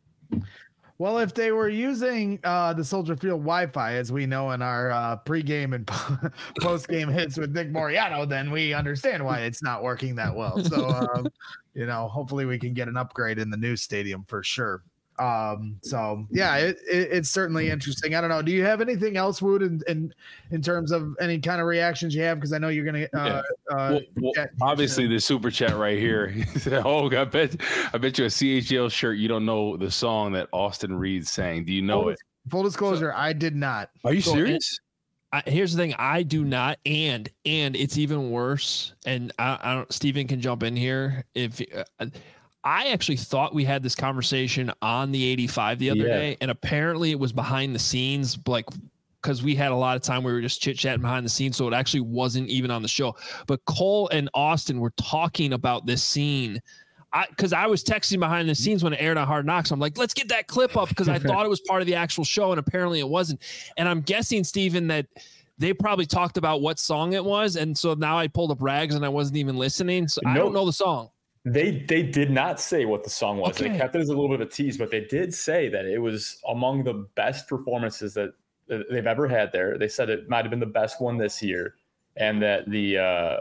Well, if they were using uh, the Soldier Field Wi-Fi, as we know in our uh, pregame and postgame hits with Nick Moriano, then we understand why it's not working that well. So, um, you know, hopefully we can get an upgrade in the new stadium for sure. Um, so yeah, it, it, it's certainly interesting. I don't know. Do you have anything else, Wood, in, in, in terms of any kind of reactions you have? Cause I know you're going to, uh, yeah. uh, well, well, chat, obviously chat. the super chat right here. He said, oh, I bet, I bet you a C H L shirt. You don't know the song that Austin Reed sang. Do you know full, it? Full disclosure. So, I did not. Are you so, serious? I, here's the thing. I do not. And, and it's even worse. And I, I don't, Steven can jump in here. If, uh, I actually thought we had this conversation on the eighty-five the other yeah. day, and apparently it was behind the scenes, like because we had a lot of time we were just chit chatting behind the scenes, so it actually wasn't even on the show. But Cole and Austin were talking about this scene. I because I was texting behind the scenes when it aired on Hard Knocks. I'm like, let's get that clip up because I thought it was part of the actual show, and apparently it wasn't. And I'm guessing, Steven, that they probably talked about what song it was, and so now I pulled up Rags and I wasn't even listening, so no. I don't know the song. They they did not say what the song was. Okay. They kept it as a little bit of a tease, but they did say that it was among the best performances that, that they've ever had there. They said it might have been the best one this year, and that the uh,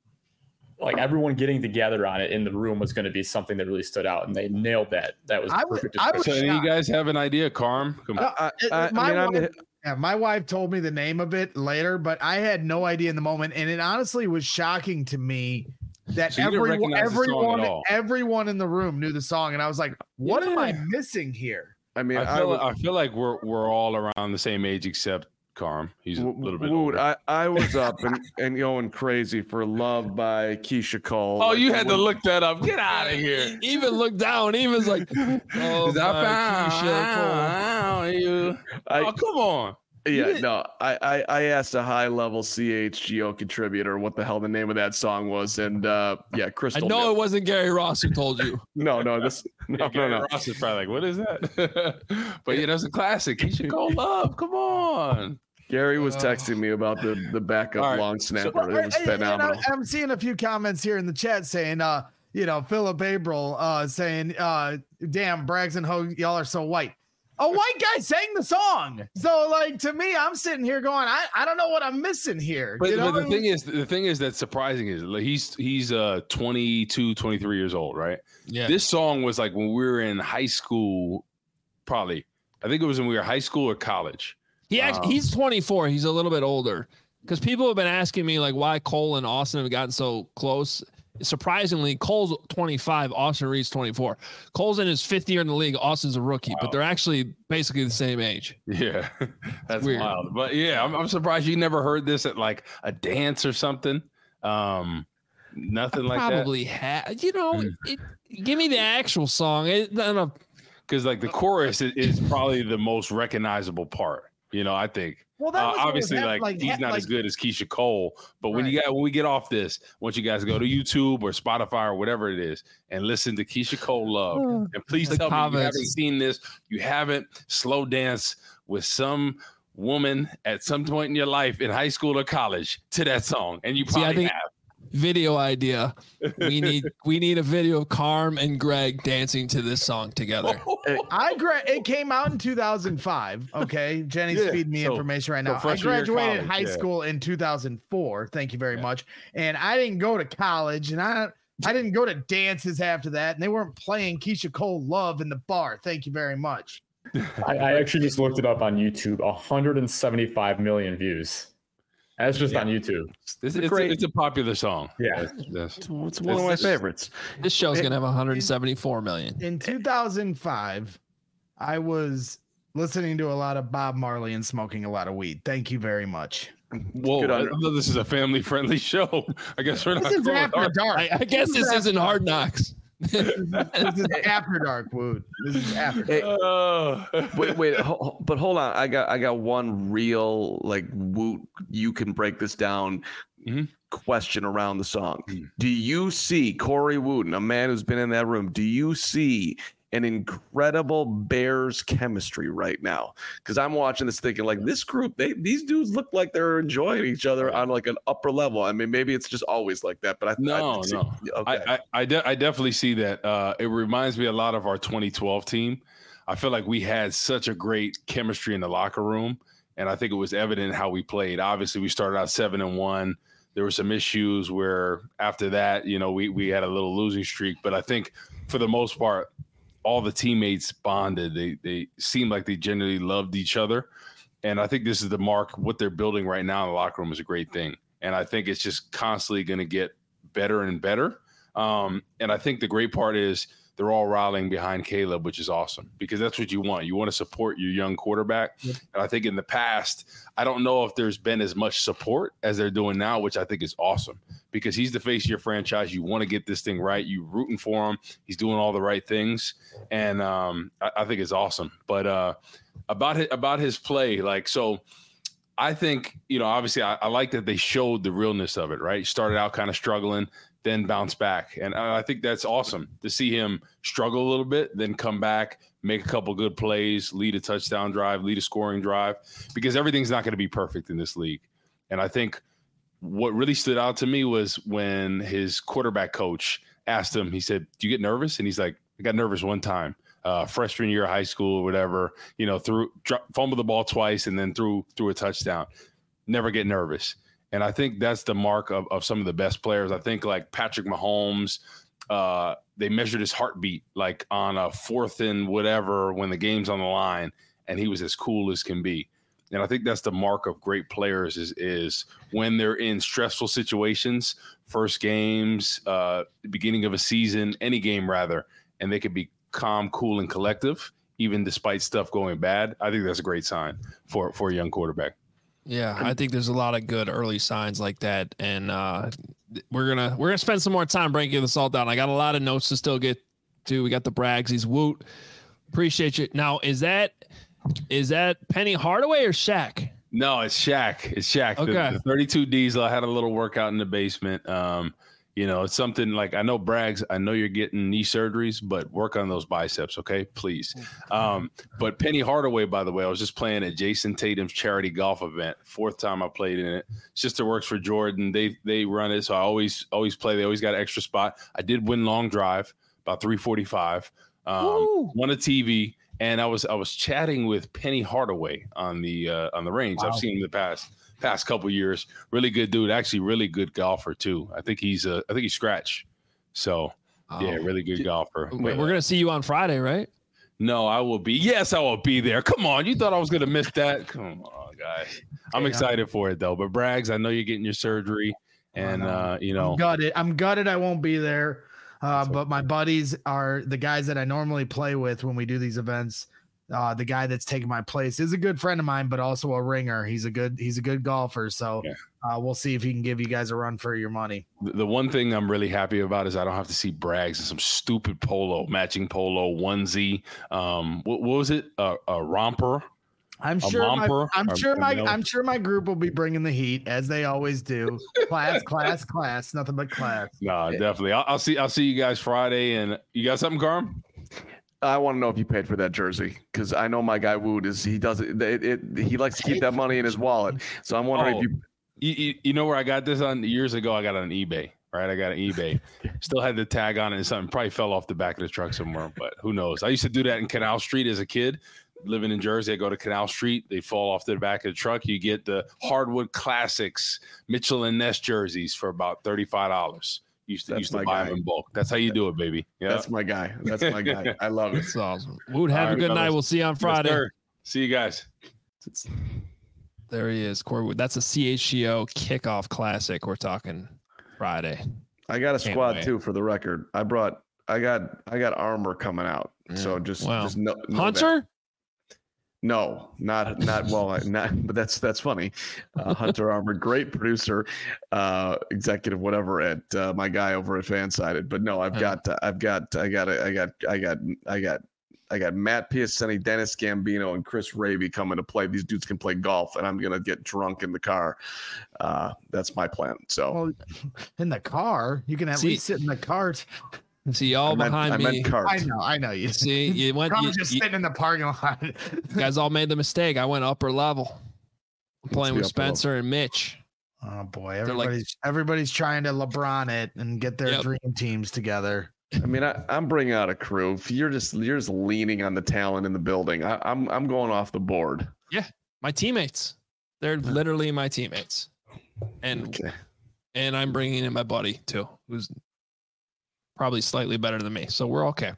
like everyone getting together on it in the room was going to be something that really stood out, and they nailed that. That was I perfect. Was, I was so you guys have an idea, Carm? Come on. Uh, I, my I mean, wife, yeah, my wife told me the name of it later, but I had no idea in the moment, and it honestly was shocking to me. That so everyone, everyone, everyone in the room knew the song, and I was like, "What yeah. am I missing here?" I mean, I feel, I, I feel like we're we're all around the same age except Carm. He's a little bit Wood, older. I, I was up and, and going crazy for Love by Keisha Cole. Oh, you had to look that up. Get out of here. He even looked down. He was like, "Oh, my Keisha Cole." You. I, oh, come on. Yeah, no, I, I, I asked a high level C H G O contributor what the hell the name of that song was, and uh, yeah, Crystal. I know it wasn't Gary Ross who told you. no, no, this no, yeah, Gary no, no. Ross is probably like, what is that? But yeah, that's a classic. He should go Love. Come on. Gary was texting me about the the backup right. long snapper. So, it was phenomenal. I, I'm seeing a few comments here in the chat saying, uh, you know, Philip April uh, saying, uh, "Damn, Braggs and Hogue, y'all are so white." A white guy sang the song. So, like, to me, I'm sitting here going, I, I don't know what I'm missing here. But, you know? but the thing is, the thing is that's surprising is like he's he's uh twenty-two, twenty-three years old, right? Yeah. This song was like when we were in high school, probably. I think it was when we were high school or college. He actually, Um, he's twenty-four. He's a little bit older because people have been asking me like why Cole and Austin have gotten so close. Surprisingly, Cole's twenty-five, Austin Reed's twenty-four. Cole's in his fifth year in the league. Austin's a rookie, Wow. but they're actually basically the same age. Yeah, that's Weird. wild. But yeah, I'm, I'm surprised you never heard this at like a dance or something. Um, nothing like that. Probably had, you know, Mm. it, give me the actual song. It, I don't know. Because like the chorus is, is probably the most recognizable part. You know, I think. Well, that Uh, was what obviously, was like, hap- like, he's ha- not like, as good as Keisha Cole, but when you Right. got when we get off this, once you guys go to YouTube or Spotify or whatever it is and listen to Keisha Cole Love, and please The tell me you comments. haven't seen this, you haven't slow dance with some woman at some point in your life in high school or college to that song, and you See, I probably think- have. Video idea. We need we need a video of Carm and Greg dancing to this song together. I gra- it came out in two thousand five. Okay, Jenny's Yeah, feeding me so- information right so now. I freshman year of graduated college, high yeah. school in two thousand four. Thank you very Yeah. much. And I didn't go to college, and I I didn't go to dances after that, and they weren't playing Keisha Cole Love in the bar. Thank you very much. I, I actually just looked it up on YouTube. one hundred seventy-five million views. That's just Yeah. on YouTube. It's, a it's, great- a, it's a popular song. Yeah. That's- that's- It's one of my It's- favorites. This show's gonna have one hundred seventy-four million. In two thousand five, I was listening to a lot of Bob Marley and smoking a lot of weed. Thank you very much. Whoa, Good I on- thought this is a family-friendly show. I guess we're not. This is going after hard. dark. I, I guess this isn't Hard Knocks. This is after dark, Wood. This is after. Hey, Oh. wait, wait, ho- ho- but hold on. I got, I got one real like woot. You can break this down. Mhm. Question around the song. Mhm. Do you see Corey Wooten, a man who's been in that room? Do you see an incredible Bears chemistry right now? Because I'm watching this thinking like this group, they these dudes look like they're enjoying each other on like an upper level. I mean, maybe it's just always like that, but I No, I, no. Okay. I I, I, de- I definitely see that. Uh, it reminds me a lot of our twenty twelve team. I feel like we had such a great chemistry in the locker room, and I think it was evident in how we played. Obviously, we started out seven and one. There were some issues where after that, you know, we we had a little losing streak. But I think for the most part, all the teammates bonded. They they seemed like they genuinely loved each other, and I think this is the mark. What they're building right now in the locker room is a great thing, and I think it's just constantly going to get better and better. Um, and I think the great part is they're all rallying behind Caleb, which is awesome because that's what you want. You want to support your young quarterback. Yep. And I think in the past, I don't know if there's been as much support as they're doing now, which I think is awesome because he's the face of your franchise. You want to get this thing right. You rooting for him. He's doing all the right things. And um, I, I think it's awesome. But uh, about his, about his play, like, so I think, you know, obviously I, I like that they showed the realness of it, right? Started out kind of struggling, then bounce back. And I think that's awesome to see him struggle a little bit, then come back, make a couple good plays, lead a touchdown drive, lead a scoring drive, because everything's not going to be perfect in this league. And I think what really stood out to me was when his quarterback coach asked him, he said, "Do you get nervous?" And he's like, "I got nervous one time, uh, freshman year of high school or whatever, you know, threw, dro- fumbled the ball twice and then threw, threw a touchdown. Never get nervous." And I think that's the mark of, of some of the best players. I think like Patrick Mahomes, uh, they measured his heartbeat like on a fourth and whatever when the game's on the line, and he was as cool as can be. And I think that's the mark of great players is, is when they're in stressful situations, first games, uh, the beginning of a season, any game rather, and they can be calm, cool, and collective, even despite stuff going bad. I think that's a great sign for, for a young quarterback. Yeah, I think there's a lot of good early signs like that, and uh, we're gonna we're gonna spend some more time breaking this all down. I got a lot of notes to still get to. We got the Bragsies, Woot. Appreciate you. Now, is that is that Penny Hardaway or Shaq? No, it's Shaq. It's Shaq. The- Okay. The, thirty-two Diesel. I had a little workout in the basement. Um, you know, it's something like I know Braggs. I know you're getting knee surgeries, but work on those biceps, okay? Please. Um, but Penny Hardaway, by the way, I was just playing at Jason Tatum's charity golf event. Fourth time I played in it. Sister works for Jordan. They they run it, so I always always play. They always got an extra spot. I did win long drive about three forty-five. Um, won a T V. And I was I was chatting with Penny Hardaway on the uh, on the range. Wow. I've seen him the past past couple years. Really good dude. Actually, really good golfer too. I think he's uh, I think he's scratch. So yeah, really good golfer. We're gonna see you on Friday, right? No, I will be. Yes, I will be there. Come on, you thought I was gonna miss that? Come on, guys. I'm excited for it though. But Braggs, I know you're getting your surgery, and uh, you know, I'm gutted. I'm gutted. I won't be there. Uh, but my buddies are the guys that I normally play with when we do these events. Uh, the guy that's taking my place is a good friend of mine, but also a ringer. He's a good he's a good golfer. So yeah. uh, we'll see if he can give you guys a run for your money. The, the one thing I'm really happy about is I don't have to see Braggs in some stupid polo, matching polo onesie. Um, what, what was it? Uh, a romper. I'm A sure. My, romper? I'm Or- sure or my. no? I'm sure my group will be bringing the heat as they always do. Class, class, class. Nothing but class. No, definitely. I'll, I'll see. I'll see you guys Friday. And you got something, Carm? I want to know if you paid for that jersey because I know my guy Wood is he does it, it, it. He likes to keep that money in his wallet. So I'm wondering Oh. if you. You, you, you know where I got this on years ago? I got it on eBay, right? I got it on eBay. Still had the tag on it and something probably fell off the back of the truck somewhere, but who knows? I used to do that in Canal Street as a kid. Living in Jersey, I go to Canal Street. They fall off the back of the truck. You get the Hardwood Classics Mitchell and Ness jerseys for about thirty-five dollars. Used to That's used to my buy guy. them in bulk. That's how you do it, baby. Yeah. That's my guy. That's my guy. I love it. That's awesome. Wood, have All a right, good night. fellas. We'll see you on Yes, Friday. sir. See you guys. There he is, Corey Wood. That's a C H G O kickoff classic. We're talking Friday. I got a Can't squad wait. too for the record. I brought. I got. I got armor coming out. So just. Wow. Just know, know that. Hunter? No, not not well, I- not. But that's that's funny. Uh, Hunter Armour, great producer, uh, executive, whatever at uh, my guy over at Fansided. But no, I've Yeah. got uh, I've got I got I got I got I got I got Matt Piacenti, Dennis Gambino, and Chris Raby coming to play. These dudes can play golf, and I'm gonna get drunk in the car. Uh, that's my plan. So Well, in the car, you can at See- least sit in the cart. See all I meant, behind I me. meant cart. I know. I know you. See, you went. I'm You, just you- sitting in the parking lot. you guys all made the mistake. I went upper level. I'm playing be with upper level. Spencer and Mitch. Oh boy, like- everybody's everybody's trying to LeBron it and get their Yep. dream teams together. I mean, I, I'm bringing out a crew. If you're just you're just leaning on the talent in the building, I, I'm I'm going off the board. My teammates. They're literally my teammates, and Okay. and I'm bringing in my buddy too, who's probably slightly better than me. So we're okay.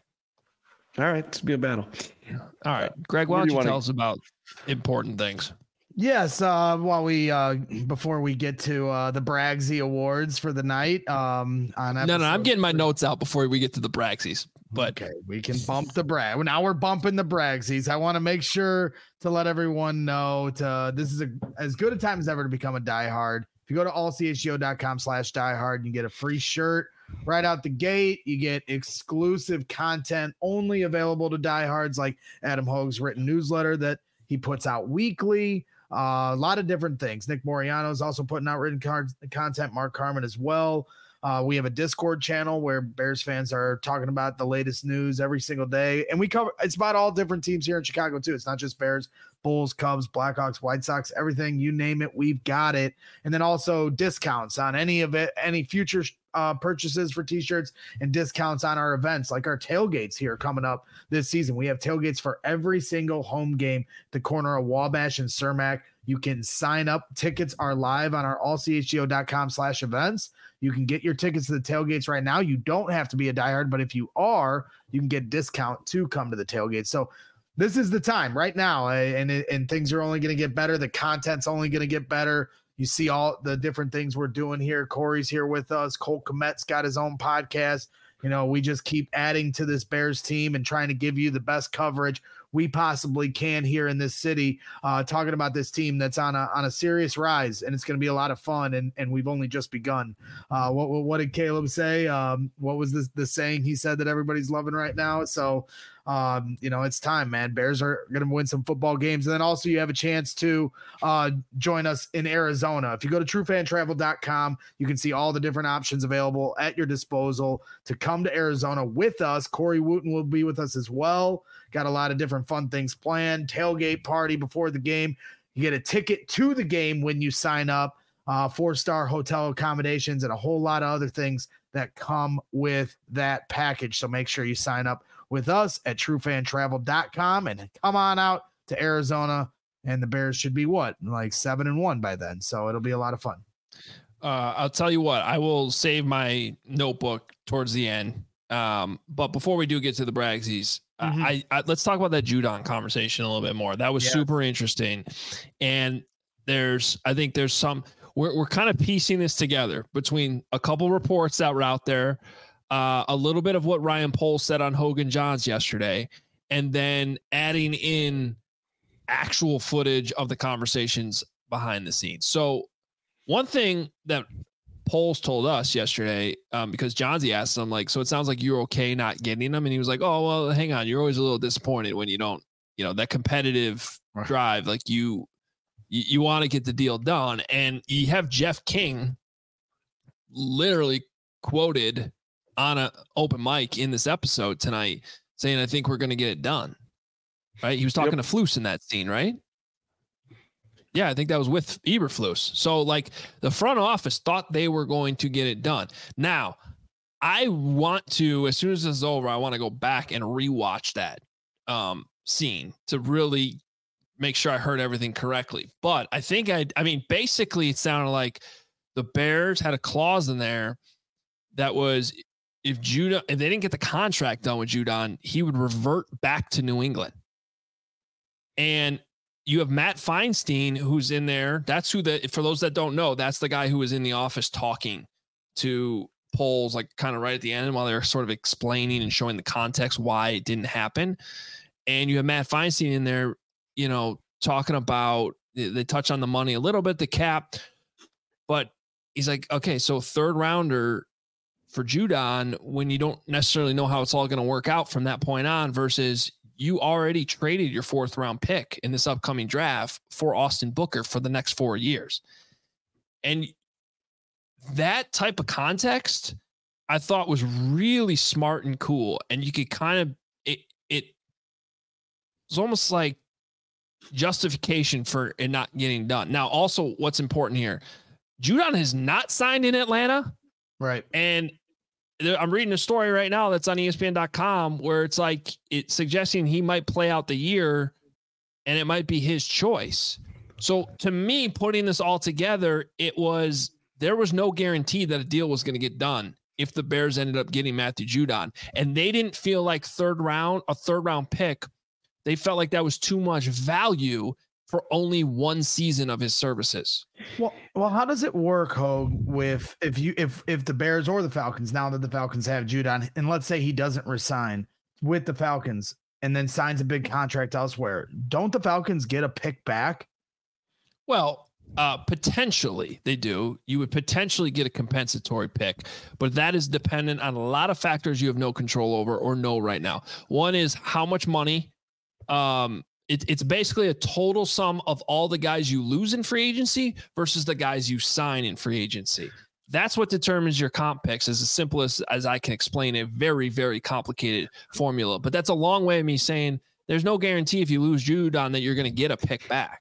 All right, it's be a battle. All right, Greg, why Where don't do you you wanna- tell us about important things? Yes, uh, while we uh, before we get to uh, the Braggsy Awards for the night, um, on No, no, I'm episode getting my three- notes out before we get to the Braxies. But okay, we can bump the brag. Now we're bumping the Bragsies. I want to make sure to let everyone know to this is a as good a time as ever to become a diehard. If you go to all c h g o dot com slash diehard, you get a free shirt right out the gate. You get exclusive content only available to diehards, like Adam Hogue's written newsletter that he puts out weekly. Uh, a lot of different things. Nick Moriano is also putting out written cards, content. Mark Carmen as well. Uh, we have a Discord channel where Bears fans are talking about the latest news every single day. And we cover, it's about all different teams here in Chicago too. It's not just Bears, Bulls, Cubs, Blackhawks, White Sox, everything, you name it, we've got it. And then also discounts on any of it, any future uh, purchases for t-shirts and discounts on our events, like our tailgates here coming up this season. We have tailgates for every single home game, at the corner of Wabash and Cermak. You can sign up. Tickets are live on our all c h g o dot com slash events. You can get your tickets to the tailgates right now. You don't have to be a diehard, but if you are, you can get discount to come to the tailgate. So this is the time right now, and and things are only going to get better. The content's only going to get better. You see all the different things we're doing here. Corey's here with us. Colt Komet's got his own podcast. You know, we just keep adding to this Bears team and trying to give you the best coverage we possibly can here in this city, uh, talking about this team that's on a on a serious rise, and it's going to be a lot of fun. And and we've only just begun. Uh, what what, what did Caleb say? Um, what was the the saying he said that everybody's loving right now? So. Um, you know, it's time, man. Bears are going to win some football games. And then also you have a chance to uh, join us in Arizona. If you go to true fan travel dot com, you can see all the different options available at your disposal to come to Arizona with us. Corey Wooten will be with us as well. Got a lot of different fun things planned. Tailgate party before the game. You get a ticket to the game when you sign up, uh, four-star hotel accommodations, and a whole lot of other things that come with that package. So make sure you sign up with us at true fan travel dot com and come on out to Arizona. And the Bears should be what, like seven and one by then. So it'll be a lot of fun. Uh, I'll tell you what, I will save my notebook towards the end. Um, but before we do get to the Bragsies, mm-hmm. I, I let's talk about that Judon conversation a little bit more. That was yeah. super interesting. And there's, I think there's some, we're, we're kind of piecing this together between a couple reports that were out there, uh, a little bit of what Ryan Poles said on Hogan Johns yesterday, and then adding in actual footage of the conversations behind the scenes. So one thing that Poles told us yesterday, um, because Johnsy asked him, like, so it sounds like you're okay not getting them. And he was like, oh, well, hang on. You're always a little disappointed when you don't, you know, that competitive right. drive, like you, you, you want to get the deal done. And you have Jeff King literally quoted on an open mic in this episode tonight saying, I think we're going to get it done. Right. He was talking yep. to Flus in that scene, right? Yeah, I think that was with Eberflus. So, like, the front office thought they were going to get it done. Now, I want to, as soon as this is over, I want to go back and rewatch that um, scene to really make sure I heard everything correctly. But I think I, I mean, basically, it sounded like the Bears had a clause in there that was if Judon, if they didn't get the contract done with Judon, he would revert back to New England. And you have Matt Feinstein, who's in there. That's who the, for those that don't know, that's the guy who was in the office talking to Poles, like kind of right at the end while they're sort of explaining and showing the context why it didn't happen. And you have Matt Feinstein in there, you know, talking about, they touch on the money a little bit, the cap, but he's like, okay, so third rounder for Judon when you don't necessarily know how it's all going to work out from that point on versus you already traded your fourth round pick in this upcoming draft for Austin Booker for the next four years. And that type of context I thought was really smart and cool. And you could kind of, it, it was almost like justification for it not getting done. Now, also what's important here, Judon has not signed in Atlanta. Right. And I'm reading a story right now that's on E S P N dot com where it's like it's suggesting he might play out the year and it might be his choice. So to me, putting this all together, it was, there was no guarantee that a deal was going to get done if the Bears ended up getting Matthew Judon, and they didn't feel like third round, a third round pick. They felt like that was too much value for only one season of his services. Well, well, how does it work, Hogue, with if you if if the Bears or the Falcons, now that the Falcons have Judon, and let's say he doesn't resign with the Falcons and then signs a big contract elsewhere, don't the Falcons get a pick back? Well, uh, potentially they do. You would potentially get a compensatory pick, but that is dependent on a lot of factors you have no control over or know right now. One is how much money. Um, It, it's basically a total sum of all the guys you lose in free agency versus the guys you sign in free agency. That's what determines your comp picks, as simple as, as I can explain a very, very complicated formula. But that's a long way of me saying there's no guarantee if you lose Judon that you're going to get a pick back.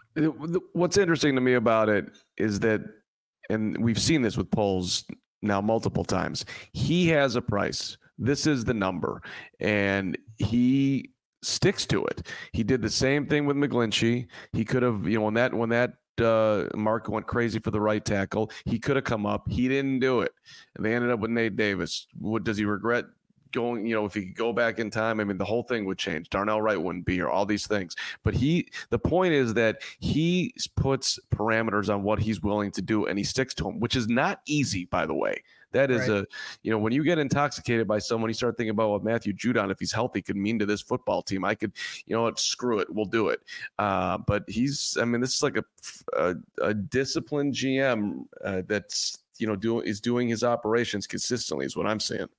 What's interesting to me about it is that, and we've seen this with Poles now multiple times, he has a price. This is the number. And he sticks to it. He did the same thing with McGlinchey. He could have, you know, when that when that uh, Mark went crazy for the right tackle, he could have come up. He didn't do it, and they ended up with Nate Davis. What does he regret going? You know, if he could go back in time, I mean, the whole thing would change. Darnell Wright wouldn't be here. All these things, but he. The point is that he puts parameters on what he's willing to do, and he sticks to them, which is not easy, by the way. That is right. a, you know, when you get intoxicated by someone, you start thinking about what Matthew Judon, if he's healthy, could mean to this football team. I could, you know what, screw it, we'll do it. Uh, but he's, I mean, this is like a a, a disciplined G M uh, that's, you know, doing is doing his operations consistently, is what I'm saying.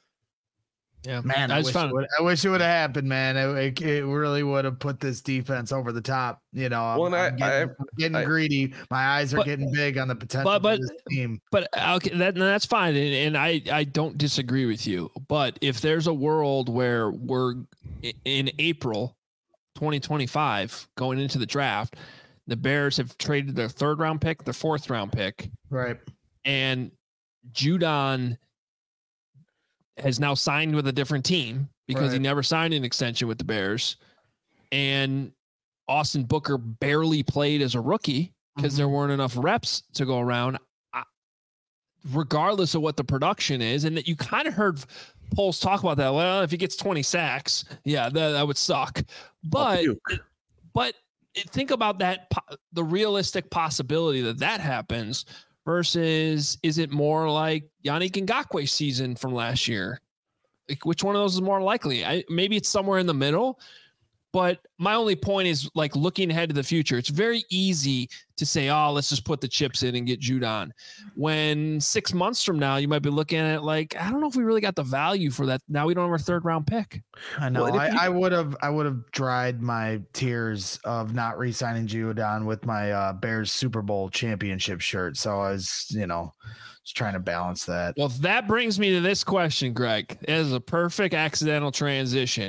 Yeah, man, I, I, wish, found- it would, I wish it would have happened, man. It, it really would have put this defense over the top. You know, I'm, well, I'm I, getting, I, getting I, greedy. My eyes are but, getting big on the potential but, but, of this team. But okay, that, that's fine, and, and I, I don't disagree with you. But if there's a world where we're in April twenty twenty-five going into the draft, the Bears have traded their third round pick, their fourth round pick, right, and Judon has now signed with a different team, because Right. he never signed an extension with the Bears. And Austin Booker barely played as a rookie because Mhm. there weren't enough reps to go around, I, regardless of what the production is. And that you kind of heard polls talk about that. Well, if he gets twenty sacks, yeah, that, that would suck. But, puke. but think about that, po- the realistic possibility that that happens versus is it more like Yannick Ngakwe's season from last year? Like, which one of those is more likely? I, maybe it's somewhere in the middle. But my only point is, like, looking ahead to the future, it's very easy to say, oh, let's just put the chips in and get Judon. When six months from now, you might be looking at it like, I don't know if we really got the value for that. Now we don't have a third round pick. I know. Well, I, if you- I would have. I would have dried my tears of not re-signing Judon with my uh, Bears Super Bowl championship shirt. So I was, you know, just trying to balance that. Well, that brings me to this question, Greg. It is a perfect accidental transition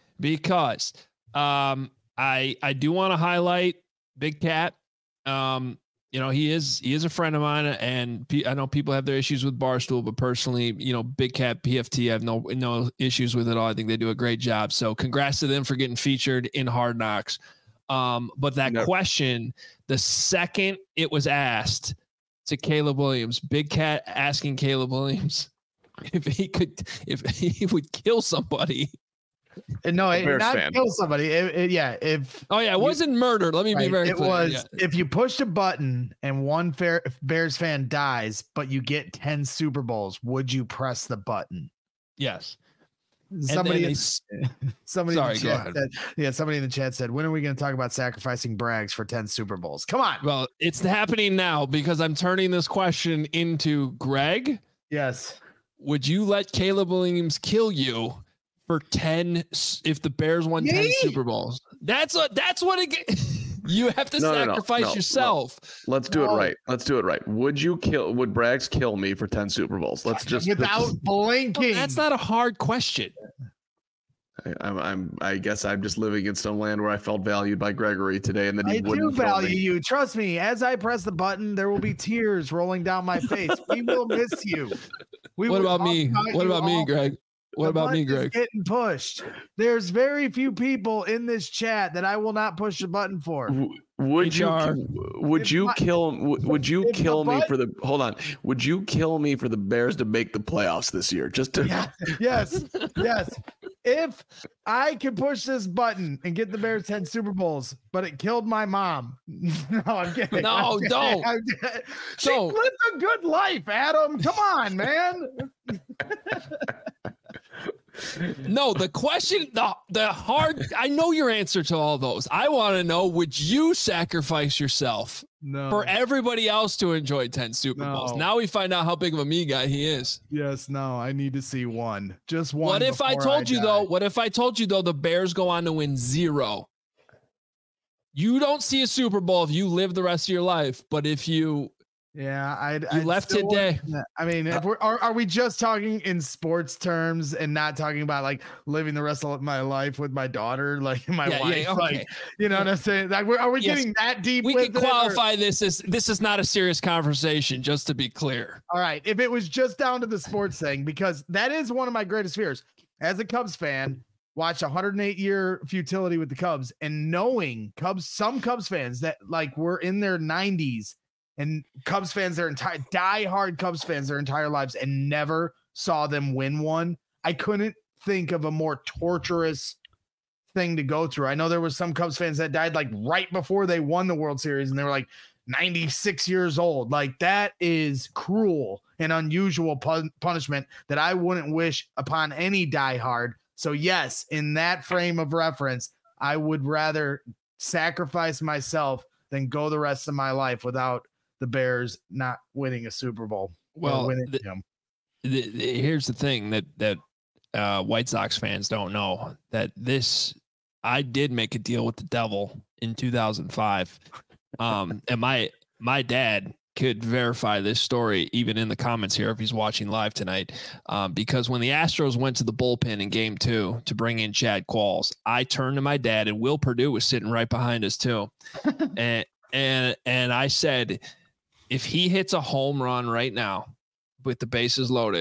because um, I I do want to highlight Big Cat. Um, you know, he is he is a friend of mine, and P- I know people have their issues with Barstool, but personally, you know, Big Cat P F T, I have no no issues with it all. I think they do a great job. So, congrats to them for getting featured in Hard Knocks. Um, but that No. question, the second it was asked to Caleb Williams, Big Cat asking Caleb Williams if he could, if he would kill somebody. And no, it, Bears not fan. kill somebody. It, it- yeah, if Oh yeah, it wasn't murder. Let me be right, very it clear. was Yeah. if you push a button and one fair, if Bears fan dies, but you get ten Super Bowls, would you press the button? Yes. And Somebody, then they in, s- somebody Sorry, in go the chat ahead. said, yeah, somebody in the chat said, when are we going to talk about sacrificing Braggs for ten Super Bowls? Come on. well, it's happening now because I'm turning this question into Greg. Yes. Would you let Caleb Williams kill you for ten s- if the Bears won ten Me? Super Bowls? That's what that's what it ge- you have to No, no, no, sacrifice no, no. yourself. Let's do No. it right. Let's do it right. Would you kill? Would Braggs kill me for ten Super Bowls? Let's just Without let's- blinking. That's not a hard question. I, I'm, I'm. I guess I'm just living in some land where I felt valued by Gregory today, and that he I do wouldn't kill value me. you. Trust me. As I press the button, there will be tears rolling down my face. We will miss you. We What will about talk me? What you about me, all- Greg? What The about me, button is Greg? Getting pushed. There's very few people in this chat that I will not push the button for. W- Would H R. you? Would If you my- kill? w- Would you if the kill me butt- for the? Hold on. Would you kill me for the Bears to make the playoffs this year? Just to. Yeah. Yes. Yes. If I could push this button and get the Bears ten Super Bowls, but it killed my mom. No, I'm kidding. No, I'm kidding. don't. I'm kidding. She Don't. lived a good life, Adam. Come on, man. No, the question, the the hard. I know your answer to all those. I want to know: would you sacrifice yourself No. for everybody else to enjoy ten Super Bowls? No. Now we find out how big of a me guy he is. Yes, no, I need to see one. Just one. What if I before told you die. though? What if I told you though? The Bears go on to win zero. You don't see a Super Bowl if you live the rest of your life, but if you Yeah, I'd, you I'd left still today, want- I mean, if we're, are, are we just talking in sports terms and not talking about like living the rest of my life with my daughter, like my yeah, wife? yeah, okay. Like, you know what I'm saying? Like, we're- are we Yes. getting that deep? we with could it, or- qualify this as this is not a serious conversation. Just to be clear, All right, if it was just down to the sports thing, because that is one of my greatest fears as a Cubs fan. Watch one hundred eight year futility with the Cubs and knowing Cubs, some Cubs fans that like were in their nineties and Cubs fans, their entire diehard Cubs fans, their entire lives and never saw them win one. I couldn't think of a more torturous thing to go through. I know there was some Cubs fans that died like right before they won the World Series and they were like ninety-six years old. Like that is cruel and unusual pun- punishment that I wouldn't wish upon any diehard. So yes, in that frame of reference, I would rather sacrifice myself than go the rest of my life without the Bears not winning a Super Bowl. or Well, winning, the- you know. the, the- here's the thing that that uh, White Sox fans don't know that this I did make a deal with the devil in two thousand five, um, and my my dad could verify this story even in the comments here if he's watching live tonight, um, because when the Astros went to the bullpen in Game Two to bring in Chad Qualls, I turned to my dad and Will Perdue was sitting right behind us too, and and and I said, if he hits a home run right now with the bases loaded,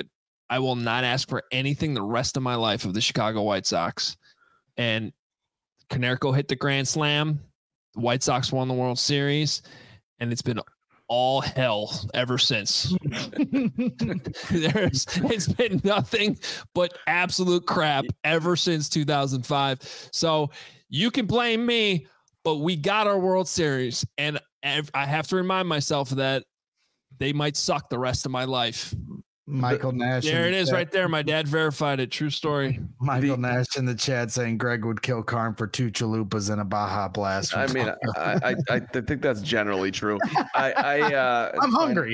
I will not ask for anything the rest of my life of the Chicago White Sox. And Konerko hit the grand slam. The White Sox won the World Series, and it's been all hell ever since. There's it's been nothing but absolute crap ever since two thousand five. So you can blame me, but we got our World Series, and I have to remind myself that they might suck the rest of my life. Michael Nash. There it the is chat. right there. My dad verified it. True story. Michael Nash in the chat saying Greg would kill Karn for two chalupas and a Baja Blast. I mean, I, I I think that's generally true. I, I uh, I'm hungry.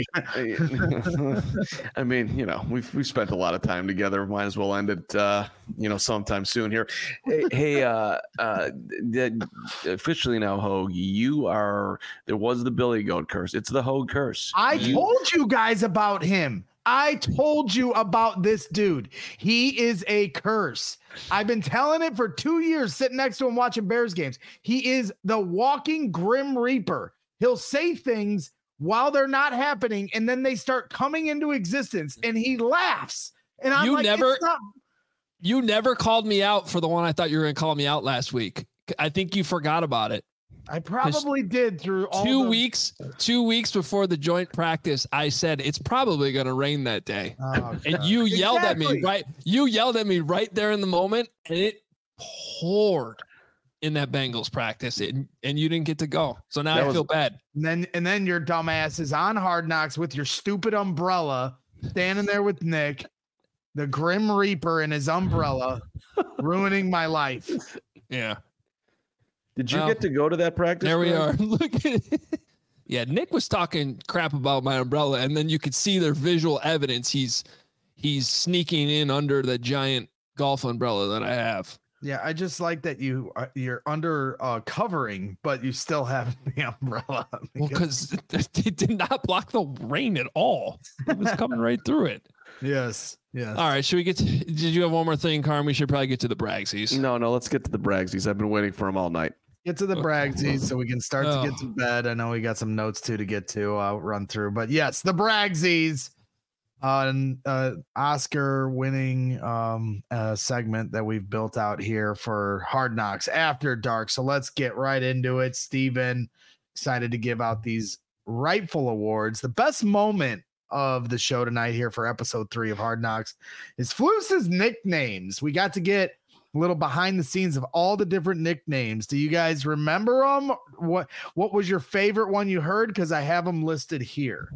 I mean, you know, we've we've spent a lot of time together. Might as well end it, uh, you know, sometime soon here. Hey, hey uh, uh, the, officially now, Hogue, you are. There was the Billy Goat curse. It's the Hogue curse. I you, told you guys about him. I told you about this dude. He is a curse. I've been telling it for two years sitting next to him watching Bears games. He is the walking Grim Reaper. He'll say things while they're not happening, and then they start coming into existence, and he laughs. And I'm you like, never, it's not- you never called me out for the one I thought you were going to call me out last week. I think you forgot about it. I probably did through all two the- weeks, two weeks before the joint practice. I said it's probably going to rain that day, Oh, and God. you yelled at Exactly. me right. You yelled at me right there in the moment, and it poured in that Bengals practice, and and you didn't get to go. So now That I was- feel bad. And then and then your dumbass is on Hard Knocks with your stupid umbrella, standing there with Nick, the Grim Reaper in his umbrella, ruining my life. Yeah, did you Well, get to go to that practice? there we Greg? are. Look at it. Yeah, Nick was talking crap about my umbrella, and then you could see their visual evidence. He's he's sneaking in under the giant golf umbrella that I have. Yeah, I just like that you uh, you're under uh, covering, but you still have the umbrella. Well, because it did not block the rain at all. It was coming right through it. yes, yes. All right, should we get to, did you have one more thing, Carm? We should probably get to the Bragsies. No, no. Let's get to the Bragsies. I've been waiting for them all night. Get to the Bragsies so we can start to get Oh. to bed. I know we got some notes too to get to. I'll run through, but yes, the Bragsies. Uh, and uh, Oscar winning um, uh, segment that we've built out here for Hard Knocks After Dark. So let's get right into it. Steven, excited to give out these rightful awards. The best moment of the show tonight here for episode three of Hard Knocks is Flus's nicknames. We got to get a little behind the scenes of all the different nicknames. Do you guys remember them? What, what was your favorite one you heard? Because I have them listed here.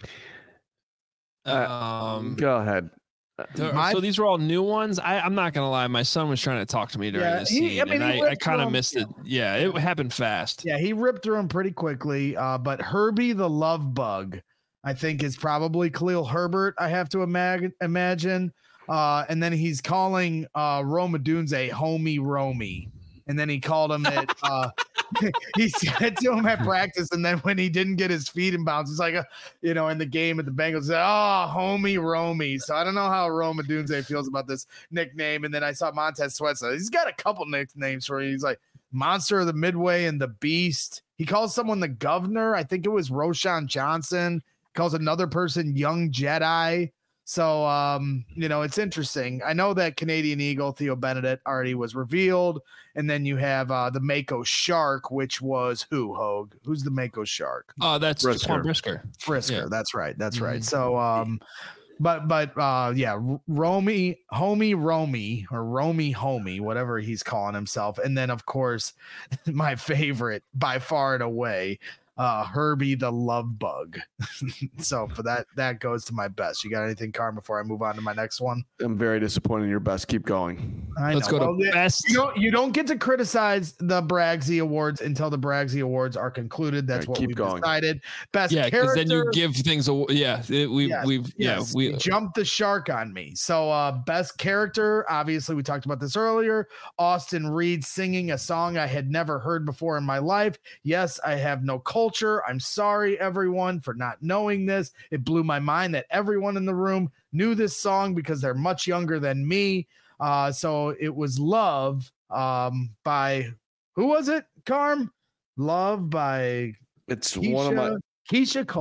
Um, Go ahead. th- my- so these were all new ones. I, I'm not gonna lie, my son was trying to talk to me during Yeah, this he- scene, I mean, and he I, I ripped kind through of 'em, missed it. Yeah, it happened fast. Yeah, he ripped through them pretty quickly. Uh, but Herbie the Love Bug, I think, is probably Khalil Herbert. I have to imag- imagine. Uh, and then he's calling uh, Roma Dunze homie Romy. And then he called him it. Uh, he said to him at practice. And then when he didn't get his feet in bounds, it's like, a, you know, in the game at the Bengals, said, oh, homie Romy. So I don't know how Roma Dunze feels about this nickname. And then I saw Montez Sweat. So he's got a couple nicknames for you. He's like Monster of the Midway and the Beast. He calls someone the Governor. I think it was Roshan Johnson. Calls another person Young Jedi. So, um, you know, it's interesting. I know that Canadian Eagle, Theo Benedict, already was revealed. And then you have uh, the Mako Shark, which was who, Hogue? Who's the Mako Shark? Oh, that's Brisker. Jaquan Brisker. Frisker. Yeah. That's right. That's right. Mhm. So, um, but, but, uh, yeah, R- Romy, homie, Romy, or Romy, homie, whatever he's calling himself. And then, of course, my favorite by far and away, uh, Herbie the Love Bug. So for that, that goes to my best. You got anything, Carm, before I move on to my next one? I'm very disappointed in your best. Keep going. I Let's know. go Well, to yeah, best. You don't, you don't get to criticize the Bragsy Awards until the Bragsy Awards are concluded. That's All right, what keep we've going. decided. Best Yeah, because character. then you give things away. Yeah, it, we Yes, we've Yes, yeah you we jumped the shark on me. So, uh, best character, obviously, we talked about this earlier. Austin Reed singing a song I had never heard before in my life. Yes, I have no culture. I'm sorry, everyone, for not knowing this. It blew my mind that everyone in the room knew this song because they're much younger than me. Uh, so it was Love um, by who was it, Carm? Love by It's Keisha, one of my Keisha Cole.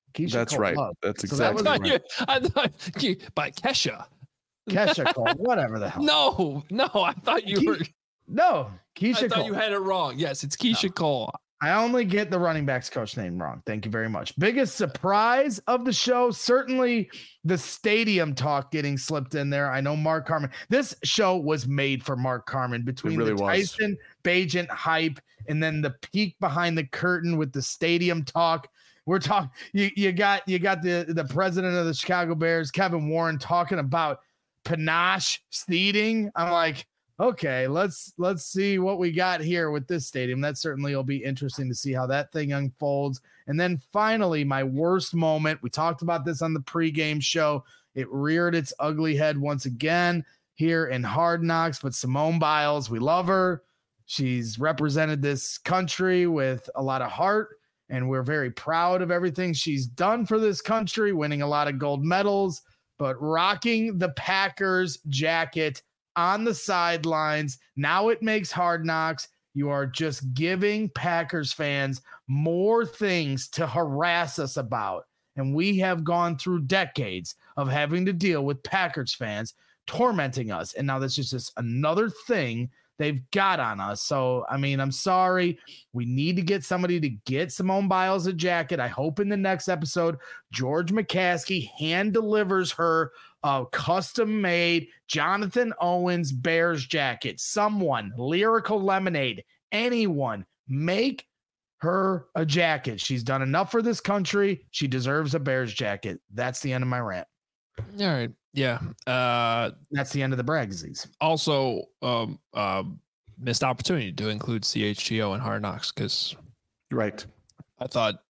Keisha That's Cole right. Love. That's So that exactly was- I right. thought, you, I thought you, by Kesha. Kesha Cole, whatever the hell. No, no, I thought you Ke- were. No, Keisha I thought Cole. you had it wrong. Yes, it's Keisha Cole. I only get the running backs coach name wrong. Thank you very much. Biggest surprise of the show, certainly the stadium talk getting slipped in there. I know Mark Carman. This show was made for Mark Carman between really the was. Tyson Bagent hype and then the peek behind the curtain with the stadium talk. We're talking. You, you got you got the the president of the Chicago Bears, Kevin Warren, talking about panache seating. I'm like, okay, let's let's see what we got here with this stadium. That certainly will be interesting to see how that thing unfolds. And then finally, my worst moment. We talked about this on the pregame show. It reared its ugly head once again here in Hard Knocks. But Simone Biles, we love her. She's represented this country with a lot of heart, and we're very proud of everything she's done for this country, winning a lot of gold medals, but rocking the Packers jacket on the sidelines. Now it makes Hard Knocks. You are just giving Packers fans more things to harass us about. And we have gone through decades of having to deal with Packers fans tormenting us. And now this is just another thing they've got on us. So, I mean, I'm sorry. We need to get somebody to get Simone Biles a jacket. I hope in the next episode, George McCaskey hand delivers her a custom-made Jonathan Owens Bears jacket. Someone, Lyrical Lemonade, anyone, make her a jacket. She's done enough for this country. She deserves a Bears jacket. That's the end of my rant. All right. Yeah. Uh, That's the end of the Bragsies. also, um, um, missed opportunity to include C H G O and Hard Knocks because Right. I thought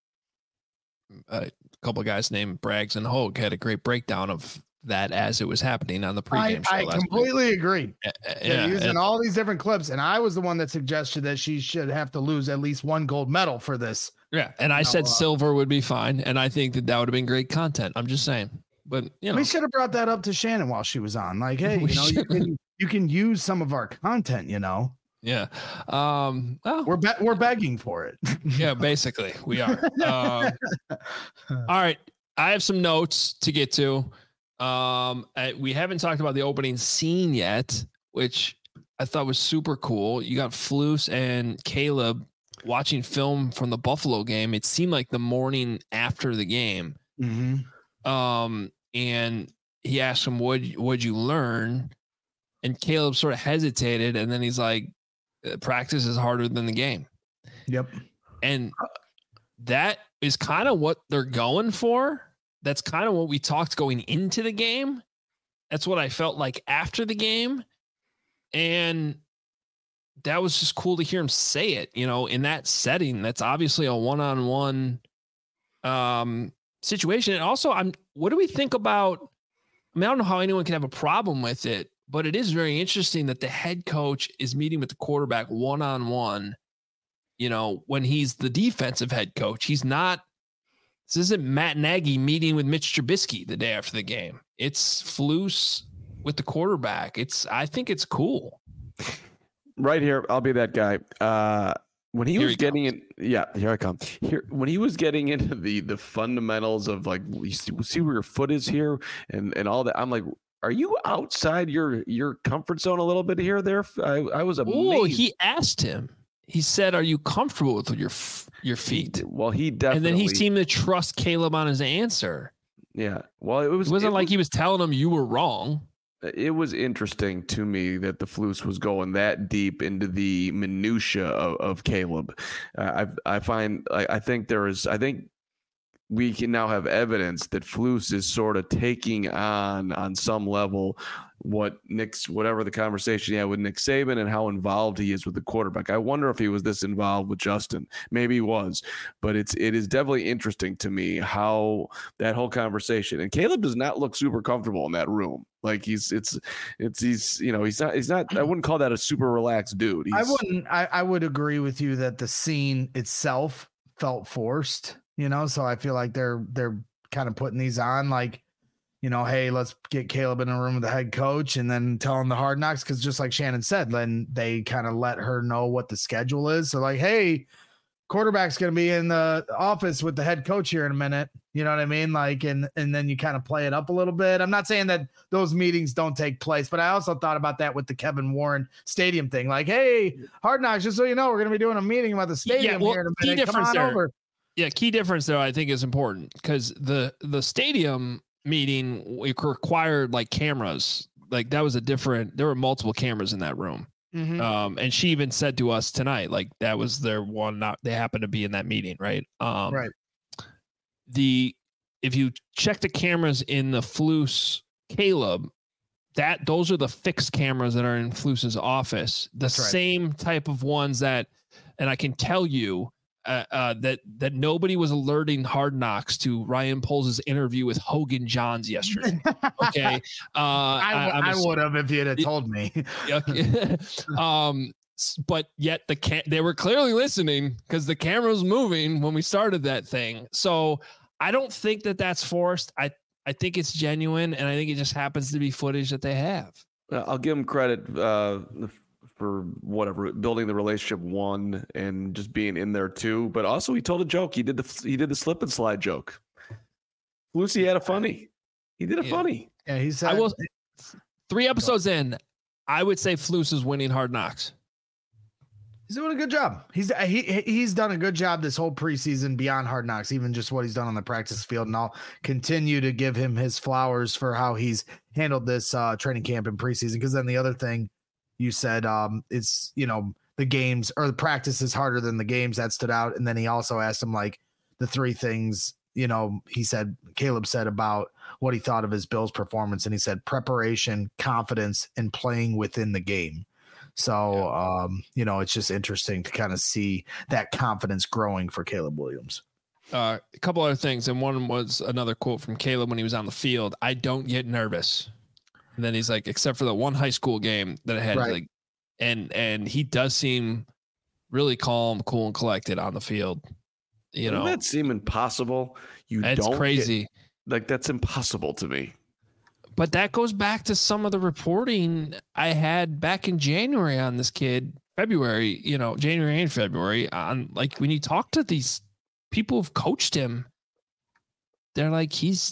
a couple of guys named Braggs and Hogue had a great breakdown of that as it was happening on the I, pregame show I last completely week. agree. Uh, They're Yeah, using and- all these different clips, and I was the one that suggested that she should have to lose at least one gold medal for this. yeah, and I No, said uh, silver would be fine, and I think that that would have been great content. I'm just saying, but you know, We should have brought that up to Shannon while she was on. Like, hey, We you know, you should. can, you can use some of our content. You know, yeah. Um, well, we're be- we're begging for it. yeah, basically we are. Um, all right, I have some notes to get to. Um, uh, we haven't talked about the opening scene yet, which I thought was super cool. You got Flus and Caleb watching film from the Buffalo game. It seemed like the morning after the game. Mm-hmm. Um, and he asked him, what what'd you learn? And Caleb sort of hesitated, and then he's like, practice is harder than the game. Yep. And that is kind of what they're going for. That's kind of what we talked going into the game. That's what I felt like after the game. And that was just cool to hear him say it, you know, in that setting. That's obviously a one-on-one um, situation. And also, I'm, what do we think about, I mean, I don't know how anyone can have a problem with it, but it is very interesting that the head coach is meeting with the quarterback one-on-one, you know, when he's the defensive head coach. He's not, this isn't Matt Nagy meeting with Mitch Trubisky the day after the game. It's Flus with the quarterback. It's, I think it's cool. Right here, I'll be that guy. Uh, when he Here was he getting in, yeah, here I come. Here, when he was getting into the the fundamentals of like, you see, see where your foot is here, and and all that. I'm like, are you outside your your comfort zone a little bit here? There, I, I was amazed. Oh, he asked him. He said, "Are you comfortable with your f- your feet?" Well, he definitely. And then he seemed to trust Caleb on his answer. Yeah. Well, it was. It wasn't it like was, he was telling him you were wrong. It was interesting to me that the Flus was going that deep into the minutia of, of Caleb. Uh, I I find I, I think there is I think we can now have evidence that Flus is sort of taking on on some level what Nick's whatever the conversation he had with Nick Saban and how involved he is with the quarterback. I wonder if he was this involved with Justin. Maybe he was, but it's it is definitely interesting to me how that whole conversation, and Caleb does not look super comfortable in that room. Like he's it's it's he's you know he's not he's not I wouldn't call that a super relaxed dude. He's, I wouldn't. I, I would agree with you that the scene itself felt forced. You know, so I feel like they're they're kind of putting these on like, you know, hey, let's get Caleb in a room with the head coach and then tell him the Hard Knocks, because just like Shannon said, then they kind of let her know what the schedule is. So like, hey, quarterback's going to be in the office with the head coach here in a minute. You know what I mean? Like, and, and then you kind of play it up a little bit. I'm not saying that those meetings don't take place, but I also thought about that with the Kevin Warren stadium thing. Like, hey, Hard Knocks, just so you know, we're going to be doing a meeting about the stadium yeah, well, here in a key minute. Come on there, over. Yeah, key difference though, I think is important because the the stadium meeting required like cameras. Like that was a different. There were multiple cameras in that room. Mm-hmm. Um, and she even said to us tonight, like that was their one. Not they happened to be in that meeting, right? Um, right. The if you check the cameras in the Flus Caleb, that those are the fixed cameras that are in Flus's office. The That's right. same type of ones that, and I can tell you uh, uh, that that nobody was alerting Hard Knocks to Ryan Poles' interview with Hogan Johns yesterday. Okay, uh, I, I, I would have if you'd have told me. Okay. um, but yet the ca- they were clearly listening because the camera was moving when we started that thing. So I don't think that that's forced. I I think it's genuine, and I think it just happens to be footage that they have. I'll give him credit uh, for whatever building the relationship one and just being in there too. But also, he told a joke. He did the he did the slip and slide joke. Lucy had a funny. He did a Yeah. funny. Yeah, he said. I will. Three episodes in, I would say Flus is winning Hard Knocks. He's doing a good job. He's he he's done a good job this whole preseason beyond Hard Knocks, even just what he's done on the practice field. And I'll continue to give him his flowers for how he's handled this uh, training camp and preseason. Because then the other thing you said, um, it's you know the games or the practice is harder than the games. That stood out. And then he also asked him like the three things. You know, he said Caleb said about what he thought of his Bills performance, and he said preparation, confidence, and playing within the game. So, um, you know, it's just interesting to kind of see that confidence growing for Caleb Williams. Uh, a couple other things, and one was another quote from Caleb when he was on the field. I don't get nervous. And then he's like, except for the one high school game that I had, Right. like, and and he does seem really calm, cool, and collected on the field. You Doesn't know, that seem impossible? You it's don't crazy. Get, like that's impossible to me. But that goes back to some of the reporting I had back in January on this kid, February, you know, January and February on like when you talk to these people who've coached him, they're like, he's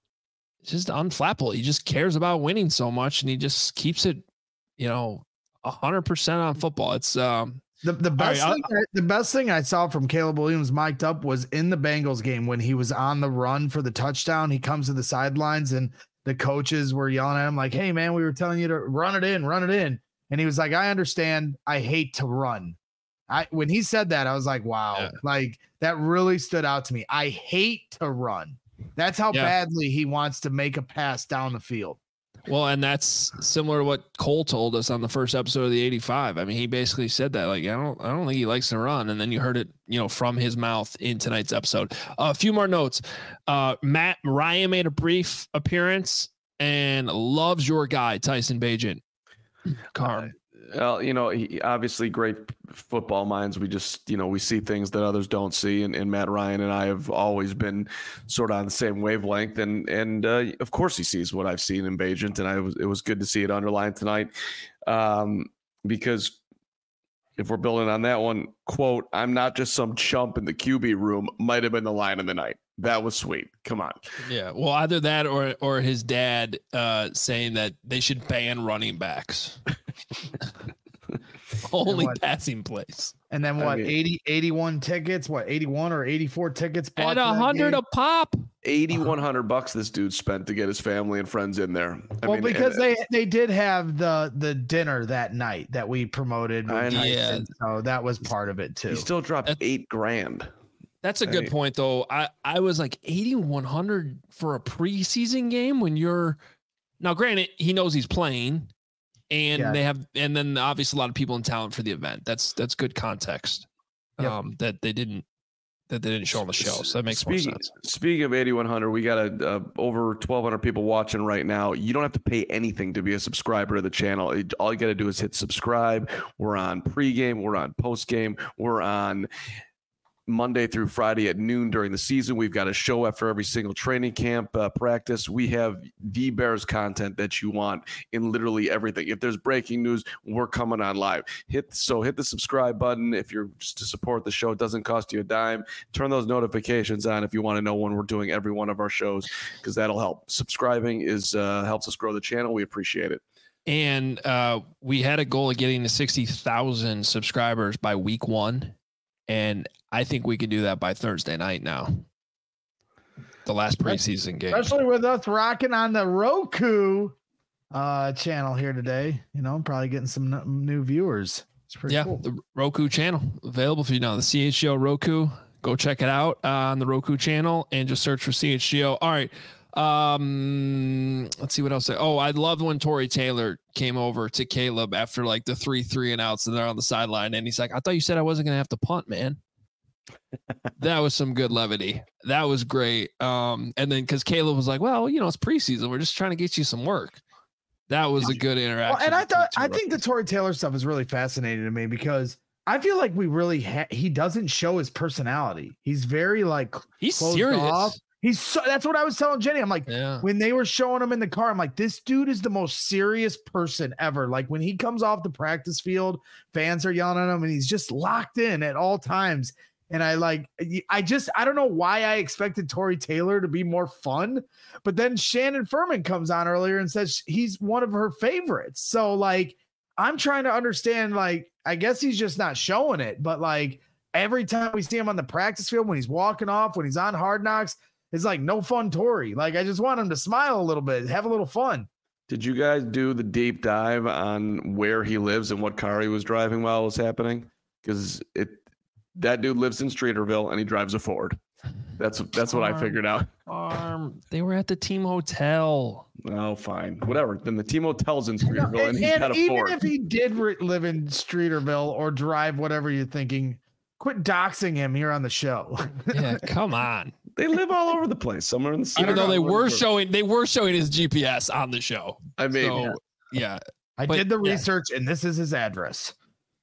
just unflappable. He just cares about winning so much and he just keeps it, you know, a hundred percent on football. It's, um, The the best right, thing I, the best thing I saw from Caleb Williams mic'd up was in the Bengals game when he was on the run for the touchdown. He comes to the sidelines and the coaches were yelling at him like, "Hey man, we were telling you to run it in, run it in." And he was like, "I understand. I hate to run." I when he said that, I was like, "Wow!" Yeah. Like that really stood out to me. I hate to run. That's how Yeah. badly he wants to make a pass down the field. well, and that's similar to what Cole told us on the first episode of the eighty-five. I mean, he basically said that, like, I don't, I don't think he likes to run. And then you heard it, you know, from his mouth in tonight's episode. Uh, a few more notes. Uh, Matt Ryan made a brief appearance and loves your guy, Tyson Bagent. Carm. Well, you know, he, obviously great football minds. We just, you know, we see things that others don't see. And, and Matt Ryan and I have always been sort of on the same wavelength. And, and uh, of course he sees what I've seen in Bagent. And I was, it was good to see it underlined tonight um, because if we're building on that one, quote, "I'm not just some chump in the Q B room," might have been the line of the night. That was sweet. Come on. Yeah. Well, either that or, or his dad uh, saying that they should ban running backs. Only what? passing plays. And then I what? mean- eighty, eighty-one tickets, what, eighty-one or eighty-four tickets bought At to a that hundred game? a pop. eighty-one hundred bucks this dude spent to get his family and friends in there. I well, mean, because and- they they did have the the dinner that night that we promoted. with I know. Tyson, so that was part of it too. he still dropped That's- eight grand. That's a good Hey. point, though. I, I was like eighty-one hundred for a preseason game when you're now. Granted, he knows he's playing, and Yeah. they have, and then obviously a lot of people in talent for the event. That's that's good context. Yep. Um, that they didn't that they didn't show on the show, so that makes speaking, more sense. Speaking of eighty-one hundred, we got a, uh, over twelve hundred people watching right now. You don't have to pay anything to be a subscriber to the channel. It, all you got to do is hit subscribe. We're on pregame. We're on postgame. We're on Monday through Friday at noon during the season. We've got a show after every single training camp uh, practice. We have the Bears content that you want in literally everything. If there's breaking news, we're coming on live. Hit so hit the subscribe button if you're just to support the show. It doesn't cost you a dime. Turn those notifications on if you want to know when we're doing every one of our shows, because that'll help. Subscribing is uh, helps us grow the channel. We appreciate it. And uh, we had a goal of getting to sixty thousand subscribers by week one. And I think we can do that by Thursday night now. The last preseason game. Especially with us rocking on the Roku uh, channel here today. You know, probably getting some n- new viewers. It's pretty yeah, cool. The Roku channel available for you now. The C H G O Roku. Go check it out uh, on the Roku channel and just search for C H G O. All right. Um, let's see what else. Oh, I loved when Tory Taylor came over to Caleb after like the three three and outs and they're on the sideline. And he's like, I thought you said I wasn't going to have to punt, man. That was some good levity. That was great. Um, and then because Caleb was like, well, you know, it's preseason. We're just trying to get you some work. That was a good interaction. Well, and I thought, I think the Tory Taylor stuff is really fascinating to me because I feel like we really, ha- he doesn't show his personality. He's very like, he's serious. Off. He's so, that's what I was telling Jenny. I'm like, yeah. when they were showing him in the car, I'm like, this dude is the most serious person ever. Like when he comes off the practice field, fans are yelling at him and he's just locked in at all times. And I like, I just, I don't know why I expected Tory Taylor to be more fun, but then Shannon Furman comes on earlier and says he's one of her favorites. So like, I'm trying to understand, like, I guess he's just not showing it, but like every time we see him on the practice field, when he's walking off, when he's on Hard Knocks, it's like no fun Tory. Like, I just want him to smile a little bit, have a little fun. Did you guys do the deep dive on where he lives and what car he was driving while it was happening? Because it that dude lives in Streeterville and he drives a Ford. That's that's what I figured out. Um, they were at the team hotel. Oh, fine, whatever. Then the team hotel's in Streeterville, and, and, he's and got a even Ford. if he did re- live in Streeterville or drive whatever you're thinking, quit doxing him here on the show. Yeah, come on. They live all over the place. Somewhere in the city. Even though they were showing, they were showing his G P S on the show. I mean, so, yeah. yeah. I But, did the yeah. research, and this is his address.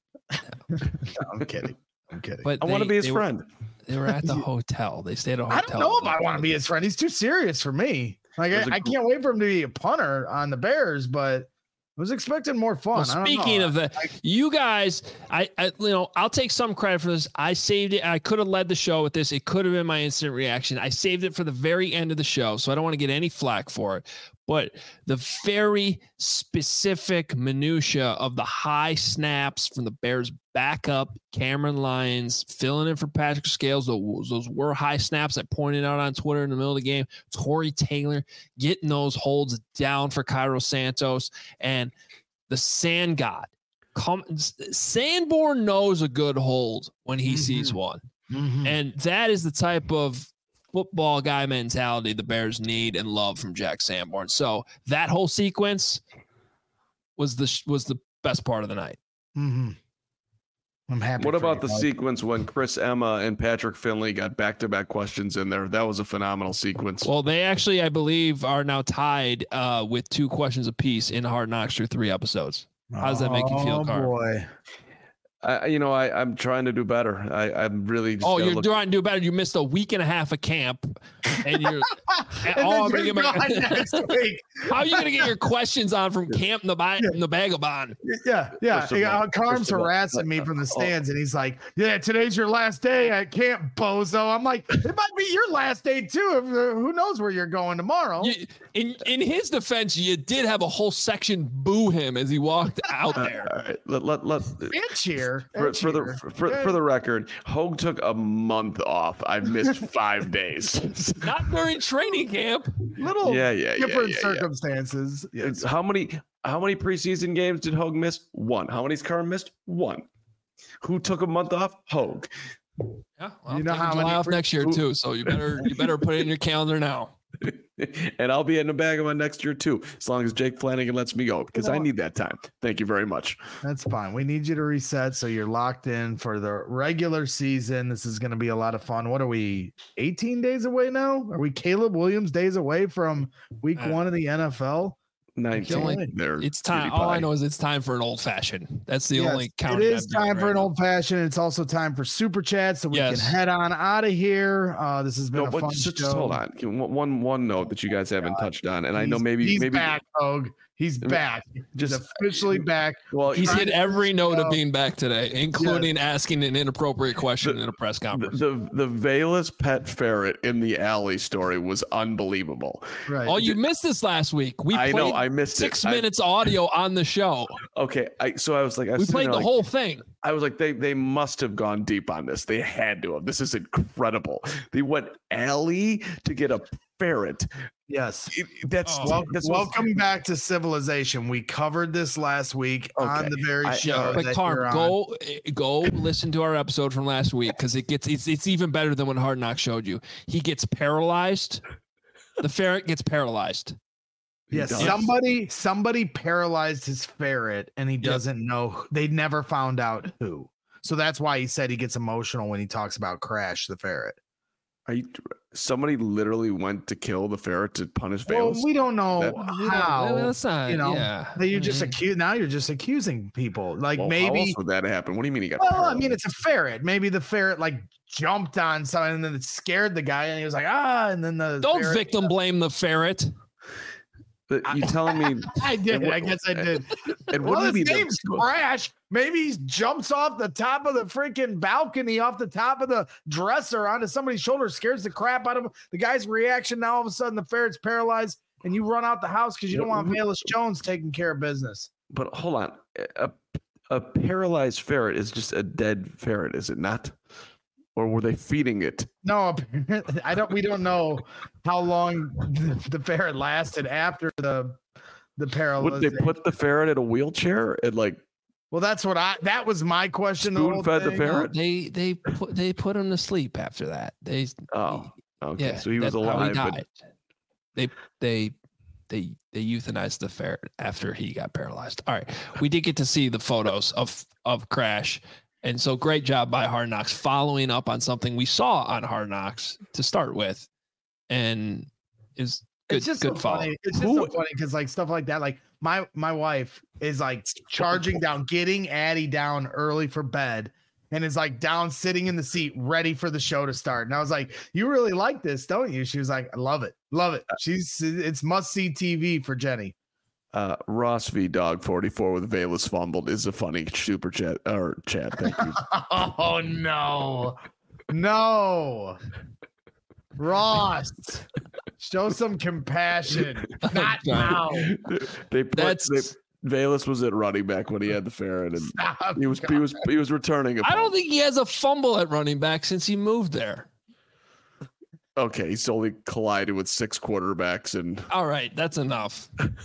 No, I'm kidding. I'm kidding. But I want to be his they friend. Were, they were at the hotel. They stayed at a hotel. I don't know if I want to be his friend. He's too serious for me. Like I, a- I can't wait for him to be a punter on the Bears, but I was expecting more fun. Well, I don't speaking know. of that, I- you guys, I, I, you know, I'll take some credit for this. I saved it. I could have led the show with this. It could have been my instant reaction. I saved it for the very end of the show, so I don't want to get any flack for it. But the very specific minutia of the high snaps from the Bears backup, Cameron Lyons filling in for Patrick Scales. Those, those were high snaps I pointed out on Twitter in the middle of the game. Tory Taylor getting those holds down for Cairo Santos, and the Sand God. Come, Sanborn knows a good hold when he mm-hmm. sees one. Mm-hmm. And that is the type of football guy mentality the Bears need and love from Jack Sanborn. So that whole sequence was the was the best part of the night. Mm-hmm. I'm happy. What about you, the Mike. sequence when Chris Emma and Patrick Finley got back-to-back questions in there? That was a phenomenal sequence. Well, they actually, I believe, are now tied uh, with two questions apiece in Hard Knocks through three episodes. How does that make you feel, Oh Carl? boy. I, you know, I, I'm trying to do better. I, I'm really. Just Oh, gotta you're look- trying to do better. You missed a week and a half of camp, and you're. And oh, I'm then gonna you're get my, gone next week. how are you going to get your questions on from camp in the, ba- in the Vagabond? Yeah, yeah. First of all- yeah Carm's first of all, harassing me from the oh. stands, and he's like, "Yeah, today's your last day at camp, bozo." I'm like, "It might be your last day too. If, uh, who knows where you're going tomorrow?" You, in in his defense, you did have a whole section boo him as he walked out there. All right, let let let. And cheer. For, and for the cheer. for, for the record, Hogue took a month off. I've missed five days. Not during training camp. little Yeah, yeah, yeah, different yeah, yeah. circumstances. Yes. How many how many preseason games did Hogue miss? One. How many's Carr missed? One. Who took a month off? Hogue. Yeah, well, You know I'm how taking July many off pre- next year too, so you better you better put it in your calendar now. And I'll be in the bag of my next year too, as long as Jake Flanagan lets me go, because I need that time. Thank you very much. That's fine. We need you to reset so you're locked in for the regular season. This is going to be a lot of fun. What are we, eighteen days away now? Are we Caleb Williams days away from week Uh, one of the N F L? nineteen. Only, there, it's time. All I know is it's time for an old fashioned. That's the yes, only count. It is time for right an old fashioned. It's also time for super chat, so we yes. can head on out of here. Uh, this has been no, a but fun just, show. Just hold on. One one note that you guys haven't God. touched on, and he's, I know maybe he's maybe back, Hogue. He's back. Just he's officially back. Well, he's hit every note show. of being back today, including yes. asking an inappropriate question the, in a press conference. The, the the Velus pet ferret in the alley story was unbelievable. Right. Oh, you missed this last week. We I played know I missed six it. minutes I, audio on the show. Okay, I so I was like, I was we played the like, whole thing. I was like, they they must have gone deep on this. They had to have. This is incredible. They went alley to get a ferret. Yes, it, that's, oh, well, that's welcome what's... back to Civilization. We covered this last week okay. on the very I, show. But Carm, go go listen to our episode from last week because it gets it's it's even better than what Hard Knocks showed you. He gets paralyzed. The ferret gets paralyzed. Yes, somebody somebody paralyzed his ferret, and he doesn't yep. know. They never found out who. So that's why he said he gets emotional when he talks about Crash the ferret. Are you? Somebody literally went to kill the ferret to punish Velus? Well, we don't know that, how. That's not, you know, yeah. that you're just accused. Now you're just accusing people. Like well, maybe. How else would that happen? What do you mean he got? Well, paralyzed? I mean, it's a ferret. Maybe the ferret like jumped on something and then it scared the guy, and he was like, ah, and then the don't ferret, victim blame the ferret. But you telling me? I did. What, I guess I did. And well, his name's the, Crash. Maybe he jumps off the top of the freaking balcony, off the top of the dresser onto somebody's shoulder, scares the crap out of him. The guy's reaction. Now all of a sudden the ferret's paralyzed, and you run out the house because you don't want Velus Jones taking care of business. But hold on, a a paralyzed ferret is just a dead ferret, is it not? Or were they feeding it? No, I don't. We don't know how long the, the ferret lasted after the the paralysis. Would they put the ferret in a wheelchair and like? Well, that's what I. That was my question. Spoon fed the ferret. No, they they put they put him to sleep after that. They. Oh, okay. Yeah, so he was alive. He died. But... They they they they euthanized the ferret after he got paralyzed. All right, we did get to see the photos of of Crash. And so great job by Hard Knocks following up on something we saw on Hard Knocks to start with. And is good, it's just good so follow. funny. It's just Who, so funny because like stuff like that, like my my wife is like charging down, getting Addie down early for bed, and is like down sitting in the seat ready for the show to start. And I was like, you really like this, don't you? She was like, I love it. Love it. She's it's must see T V for Jenny. Uh, Ross V Dog forty-four with Velus fumbled is a funny super chat or chat. Thank you. Oh no, no, Ross, show some compassion. Not now. They put That's. They, Velus was at running back when he had the ferret, and Stop, he was God. he was he was returning. A I don't think he has a fumble at running back since he moved there. Okay, he's only collided with six quarterbacks, and all right, that's enough.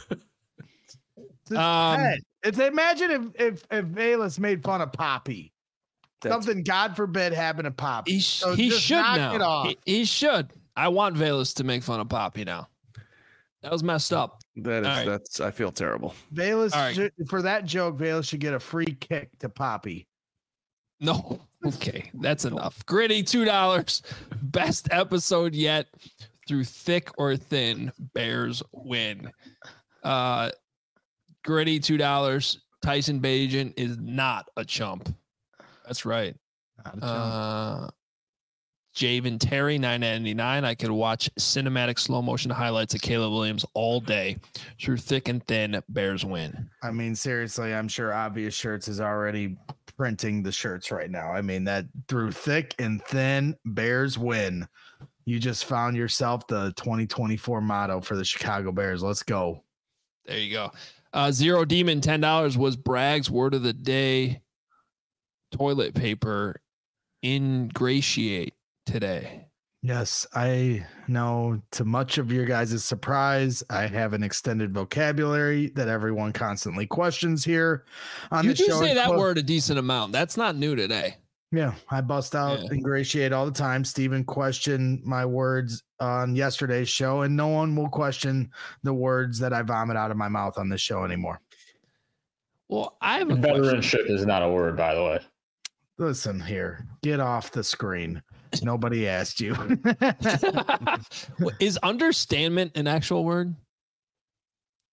It's, um, it's imagine if if if Velus made fun of Poppy. Something, God forbid, happened to Poppy. He, so he should knock now. It off. He, he should. I want Velus to make fun of Poppy now. That was messed up. that is right. that's I feel terrible. Velus right. should, for that joke, Velus should get a free kick to Poppy. No. Okay, that's enough. Gritty, two dollars. Best episode yet. Through thick or thin, Bears win. Uh, Gritty, two dollars. Tyson Bagent is not a chump. That's right. Not a chump. Uh, Javen Terry, nine ninety-nine. I could watch cinematic slow motion highlights of Caleb Williams all day. Through thick and thin, Bears win. I mean, seriously, I'm sure Obvious Shirts is already printing the shirts right now. I mean, that through thick and thin, Bears win. You just found yourself the twenty twenty-four motto for the Chicago Bears. Let's go. There you go. Uh, Zero Demon, ten dollars was Bragg's word of the day. Toilet paper ingratiate today. Yes, I know to much of your guys' surprise, I have an extended vocabulary that everyone constantly questions here on you the do show. say that Well, word a decent amount. That's not new today. Yeah, I bust out Yeah. ingratiate all the time. Steven questioned my words on yesterday's show, and no one will question the words that I vomit out of my mouth on this show anymore. Well, I have a question. Veteranship is not a word, by the way. Listen here, get off the screen. Nobody asked you. Is understandment an actual word?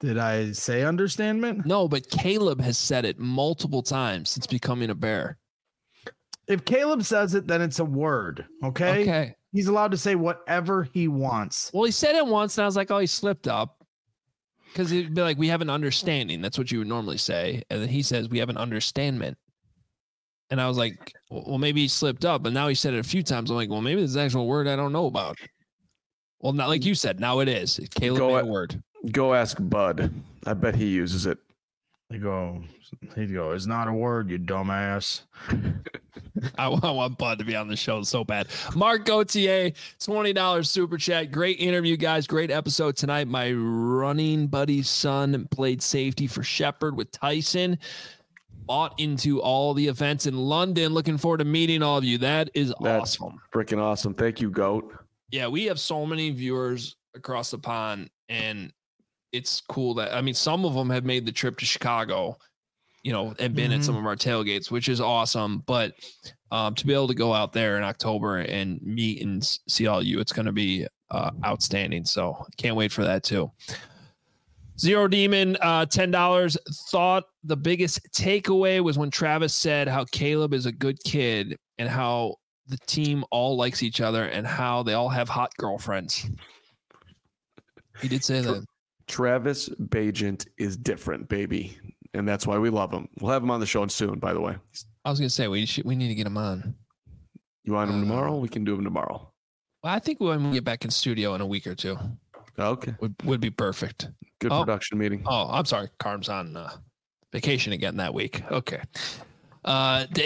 Did I say understandment? No, but Caleb has said it multiple times since becoming a Bear. If Caleb says it, then it's a word. Okay. Okay. He's allowed to say whatever he wants. Well, he said it once, and I was like, oh, he slipped up. Because he'd be like, we have an understanding. That's what you would normally say. And then he says, we have an understandment. And I was like, well, maybe he slipped up. But now he said it a few times. I'm like, well, maybe this is an actual word I don't know about. Well, not like you said. Now it is. Caleb Go made at- a word. Go ask Bud. I bet he uses it. They go, he'd go, it's not a word, you dumbass. I, I want Bud to be on the show so bad. Mark Gauthier, twenty dollars super chat. Great interview, guys. Great episode tonight. My running buddy's son played safety for Shepherd with Tyson. Bought into all the events in London. Looking forward to meeting all of you. That is That's awesome. Freaking awesome. Thank you, Goat. Yeah, we have so many viewers across the pond, and it's cool that, I mean, some of them have made the trip to Chicago, you know, and been Mhm. at some of our tailgates, which is awesome. But um, to be able to go out there in October and meet and s- see all you, it's going to be uh, outstanding. So can't wait for that too. Zero Demon, uh, ten dollars. Thought the biggest takeaway was when Travis said how Caleb is a good kid and how the team all likes each other and how they all have hot girlfriends. He did say that. Travis Bajent is different, baby. And that's why we love him. We'll have him on the show soon, by the way. I was gonna say we should, we need to get him on. You want him Uh, tomorrow? We can do him tomorrow. Well, I think when we get back in studio in a week or two Okay. would, would be perfect. Good Oh. production meeting. Oh, I'm sorry. Carm's on uh, vacation again that week. Okay. Uh, da-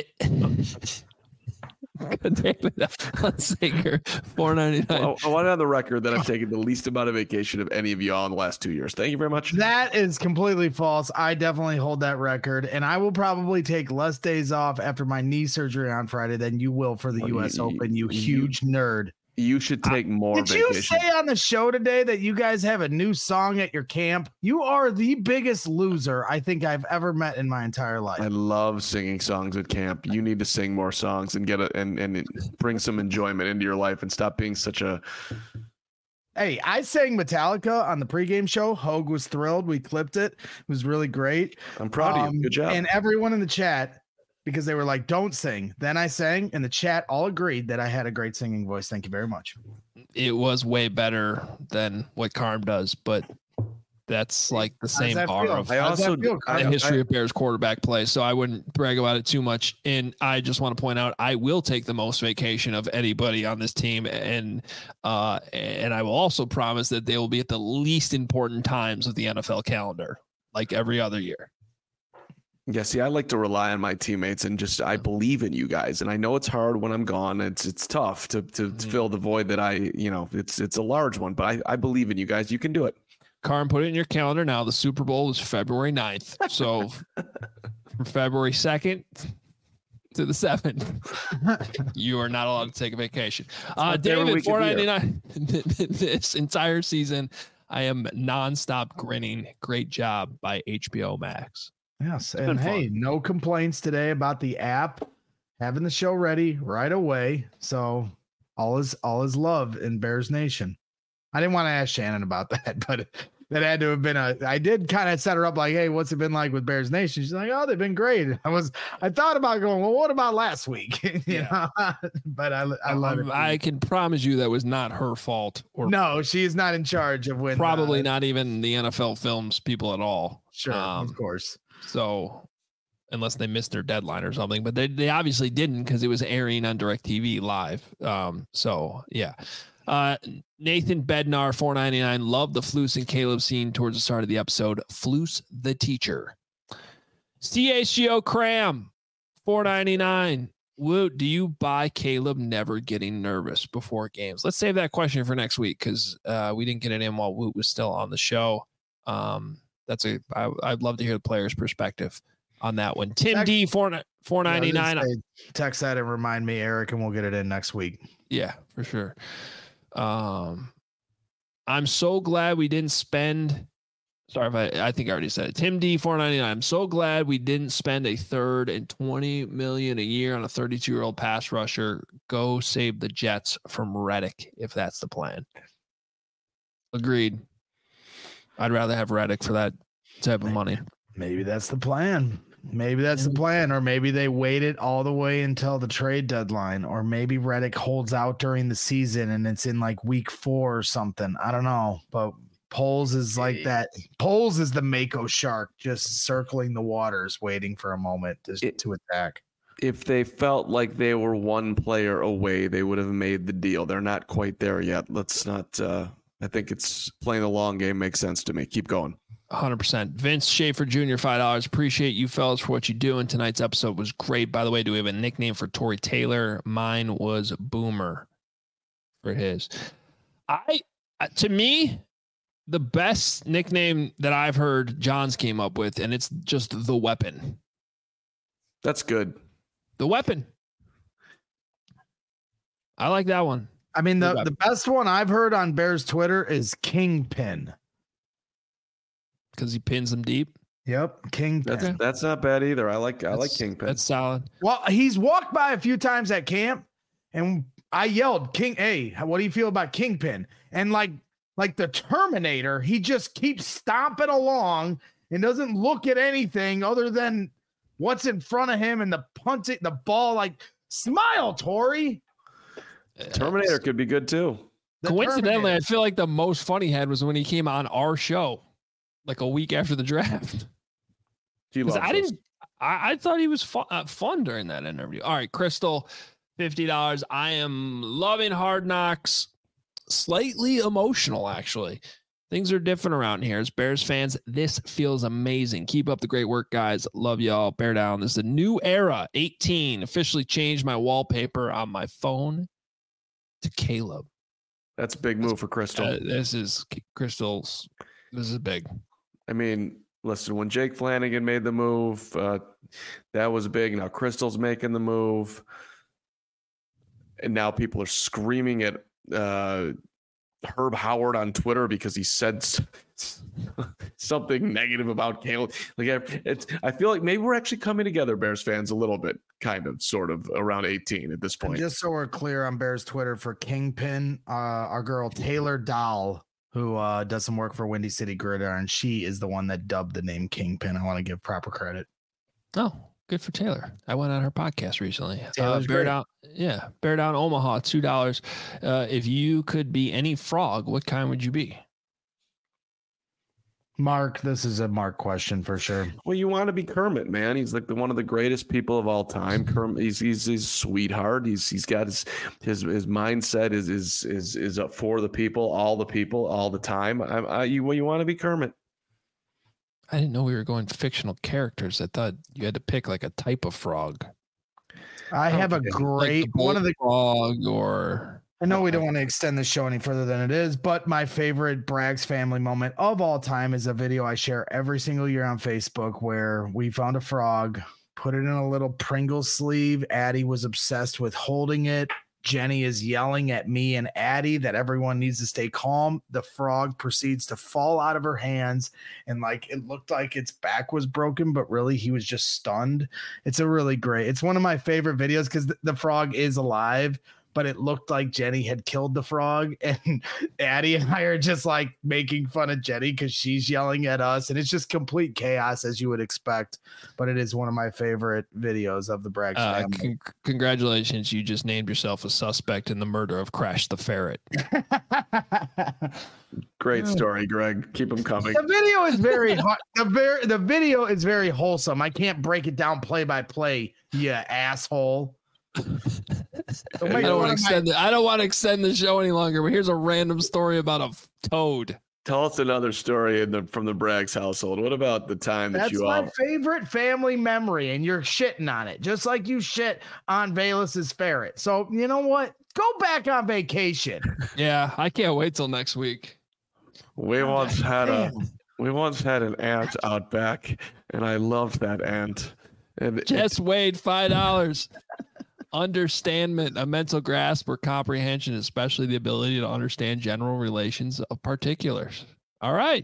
David Hunsaker, four ninety-nine. Well, I want it on the record that I've taken the least amount of vacation of any of y'all in the last two years. Thank you very much. That is completely false. I definitely hold that record, and I will probably take less days off after my knee surgery on Friday than you will for the Oh, U S you- Open, you you- huge nerd. You should take more Did you vacation. say on the show today that you guys have a new song at your camp? You are the biggest loser I think I've ever met in my entire life. I love singing songs at camp. You need to sing more songs and get a and and bring some enjoyment into your life and stop being such a. Hey, I sang Metallica on the pregame show. Hogue was thrilled. We clipped it. It was really great. I'm proud of Um, you. Good job. And everyone in the chat, because they were like, don't sing. Then I sang, and the chat all agreed that I had a great singing voice. Thank you very much. It was way better than what Carm does, but that's like the How does same that bar feel? of I How does that also- feel, I- Kyle? the history of Bears quarterback play. So I wouldn't brag about it too much. And I just want to point out, I will take the most vacation of anybody on this team. And, uh, and I will also promise that they will be at the least important times of the N F L calendar, like every other year. Yeah, see, I like to rely on my teammates and just I believe in you guys. And I know it's hard when I'm gone. It's it's tough to to, to fill the void that I, you know, it's it's a large one, but I, I believe in you guys. You can do it. Carm, put it in your calendar now. The Super Bowl is February ninth. So from February second to the seventh, you are not allowed to take a vacation. Uh, not every David, week of four the year. ninety-nine. This entire season, I am nonstop grinning. Great job by H B O Max. Yes. been And hey, fun. no complaints today about the app having the show ready right away. So all is all is love in Bears Nation. I didn't want to ask Shannon about that, but that had to have been a I did kind of set her up like, hey, what's it been like with Bears Nation? She's like, oh, they've been great. I was I thought about going, well, what about last week? you Yeah. know, but I I love Um, it. I can promise you that was not her fault, or no, she is not in charge of when probably uh, not even the N F L films people at all. Sure, Um, of course. So unless they missed their deadline or something, but they, they obviously didn't because it was airing on DirecTV live. Um, so yeah. Uh, Nathan Bednar, four ninety-nine. Love the Flus and Caleb scene towards the start of the episode. Flus the teacher. C H G O Cram, four ninety-nine. Woot, do you buy Caleb never getting nervous before games? Let's save that question for next week because uh, we didn't get it in while Woot was still on the show. Um, That's a. I, I'd love to hear the player's perspective on that one. Tim Text- D four four Yeah, I ninety was gonna nine. say, text that and remind me, Eric, and we'll get it in next week. Yeah, for sure. Um, I'm so glad we didn't spend. Sorry if I. I think I already said it. Tim D four ninety nine. I'm so glad we didn't spend a third and twenty million a year on a thirty-two year old pass rusher. Go save the Jets from Reddick if that's the plan. Agreed. I'd rather have Reddick for that type of money. Maybe that's the plan. Maybe that's the plan, or maybe they waited all the way until the trade deadline, or maybe Reddick holds out during the season and it's in like week four or something. I don't know, but Poles is like that. Poles is the Mako shark, just circling the waters, waiting for a moment to, it, to attack. If they felt like they were one player away, they would have made the deal. They're not quite there yet. Let's not. Uh, I think it's playing the long game makes sense to me. Keep going. one hundred percent. Vince Schaefer Junior, five dollars. Appreciate you fellas for what you do. And tonight's episode was great. By the way, do we have a nickname for Tory Taylor? Mine was Boomer for his. I, to me, the best nickname that I've heard Johns came up with, and it's just The Weapon. That's good. The Weapon. I like that one. I mean, the, the best one I've heard on Bears Twitter is Kingpin. Because he pins them deep. Yep, Kingpin. That's, that's not bad either. I like I that's, like Kingpin. That's solid. Well, he's walked by a few times at camp, and I yelled, "King, hey, what do you feel about Kingpin?" And like like the Terminator, he just keeps stomping along and doesn't look at anything other than what's in front of him and the punting the ball. Like, smile, Tory. Terminator could be good too. The Coincidentally, Terminator. I feel like the most fun he had was when he came on our show, like a week after the draft. He loves I didn't. I, I thought he was fun, uh, fun during that interview. All right, Crystal, fifty dollars. I am loving Hard Knocks. Slightly emotional, actually. Things are different around here. As Bears fans, this feels amazing. Keep up the great work, guys. Love y'all. Bear down. This is a new era. eighteen. Officially changed my wallpaper on my phone to Caleb. That's a big move for Crystal. Uh, this is Crystal's. This is big. I mean, listen, when Jake Flanagan made the move, uh, that was big. Now Crystal's making the move. And now people are screaming at uh, Herb Howard on Twitter because he said something negative about Caleb. Like, it's, I feel like maybe we're actually coming together, Bears fans, a little bit, kind of, sort of, around eighteen at this point. And just so we're clear on Bears Twitter, for Kingpin, uh, our girl Taylor Dahl, who uh, does some work for Windy City Gridiron, she is the one that dubbed the name Kingpin. I want to give proper credit. Oh, good for Taylor. I went on her podcast recently. Uh, Taylor's Bear great. Down, yeah, Bear Down Omaha, two dollars. Uh, if you could be any frog, what kind would you be? Mark, this is a Mark question for sure. Well, you want to be Kermit, man. He's like the, one of the greatest people of all time. Kermit, he's he's, he's a sweetheart. He's he's got his his his mindset is is is is up for the people, all the people, all the time. I, I you well, you want to be Kermit. I didn't know we were going fictional characters. I thought you had to pick like a type of frog. I have a Like great the one of the frog, or I know we don't want to extend the show any further than it is, but my favorite Bragg's family moment of all time is a video I share every single year on Facebook where we found a frog, put it in a little Pringles sleeve. Addie was obsessed with holding it. Jenny is yelling at me and Addie that everyone needs to stay calm. The frog proceeds to fall out of her hands, and like it looked like its back was broken, but really he was just stunned. It's a really great. It's one of my favorite videos because the, the frog is alive, but it looked like Jenny had killed the frog, and Addie and I are just like making fun of Jenny because she's yelling at us, and it's just complete chaos as you would expect. But it is one of my favorite videos of the Braggs uh, family. con- congratulations, you just named yourself a suspect in the murder of Crash the Ferret. Great story, Greg. Keep them coming. The video is very hot. The very the video is very wholesome. I can't break it down play by play, you asshole. I don't want to extend it. I don't want to extend the show any longer. But here's a random story about a f- toad. Tell us another story in the, from the Braggs household. What about the time that That's you my all? favorite family memory, and you're shitting on it, just like you shit on Bayless's ferret. So you know what? Go back on vacation. Yeah, I can't wait till next week. We once had a we once had an ant out back, and I loved that ant. And it- Jess Wade, five dollars. Understandment, a mental grasp or comprehension, especially the ability to understand general relations of particulars. All right.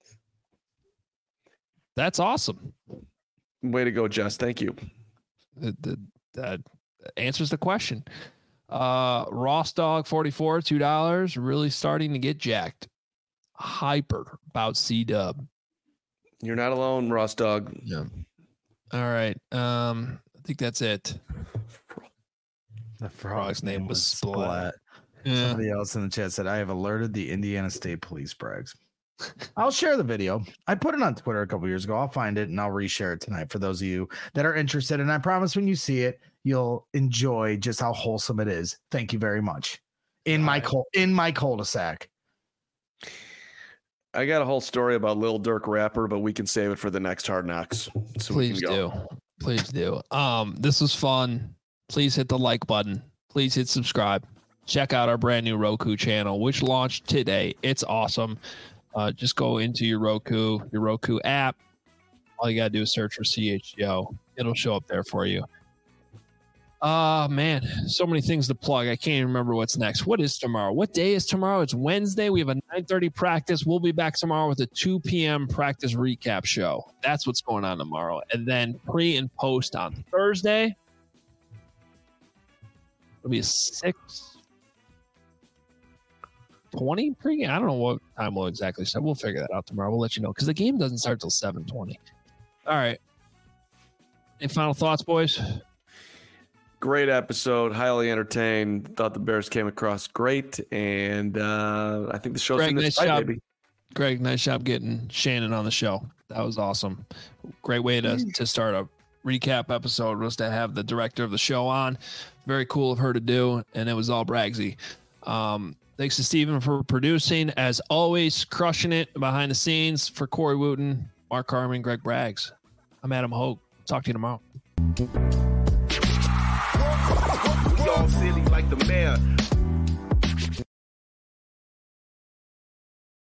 That's awesome. way to go, Jess. Thank you. The, the, that answers the question. Uh, Ross Dog forty-four, two dollars. Really starting to get jacked. hyper about C-Dub. You're not alone, Ross Dog. Yeah. All right. Um, I think that's it. The frog's name was Splat. Yeah. Somebody else in the chat said, I have alerted the Indiana State Police, Braggs. I'll share the video. I put it on Twitter a couple years ago. I'll find it and I'll reshare it tonight for those of you that are interested. And I promise when you see it, you'll enjoy just how wholesome it is. Thank you very much. In my cul- in my cul-de-sac. I got a whole story about Lil Durk rapper, but we can save it for the next Hard Knocks. So Please do. Please do. Um, this was fun. Please hit the like button. Please hit subscribe. Check out our brand new Roku channel, which launched today. It's awesome. Uh, just go into your Roku, your Roku app. All you got to do is search for C H G O. It'll show up there for you. Uh, man, so many things to plug. I can't even remember what's next. What is tomorrow? What day is tomorrow? It's Wednesday. We have a nine thirty practice. We'll be back tomorrow with a two p.m. practice recap show. That's what's going on tomorrow. And then pre and post on Thursday. It'll be a six twenty pregame. I don't know what time we'll exactly start. We'll figure that out tomorrow. We'll let you know because the game doesn't start till seven twenty. All right. Any final thoughts, boys? Great episode. Highly entertained. Thought the Bears came across great. And uh, I think the show's Greg, in this nice fight, job. baby. Greg, nice job getting Shannon on the show. That was awesome. Great way to, to start a recap episode was to have the director of the show on. Very cool of her to do. And it was all Braggsy. Um, thanks to Steven for producing. As always, crushing it behind the scenes. For Corey Wooten, Mark Harmon, Greg Braggs. I'm Adam Hogue. Talk to you tomorrow. We all silly like the mayor.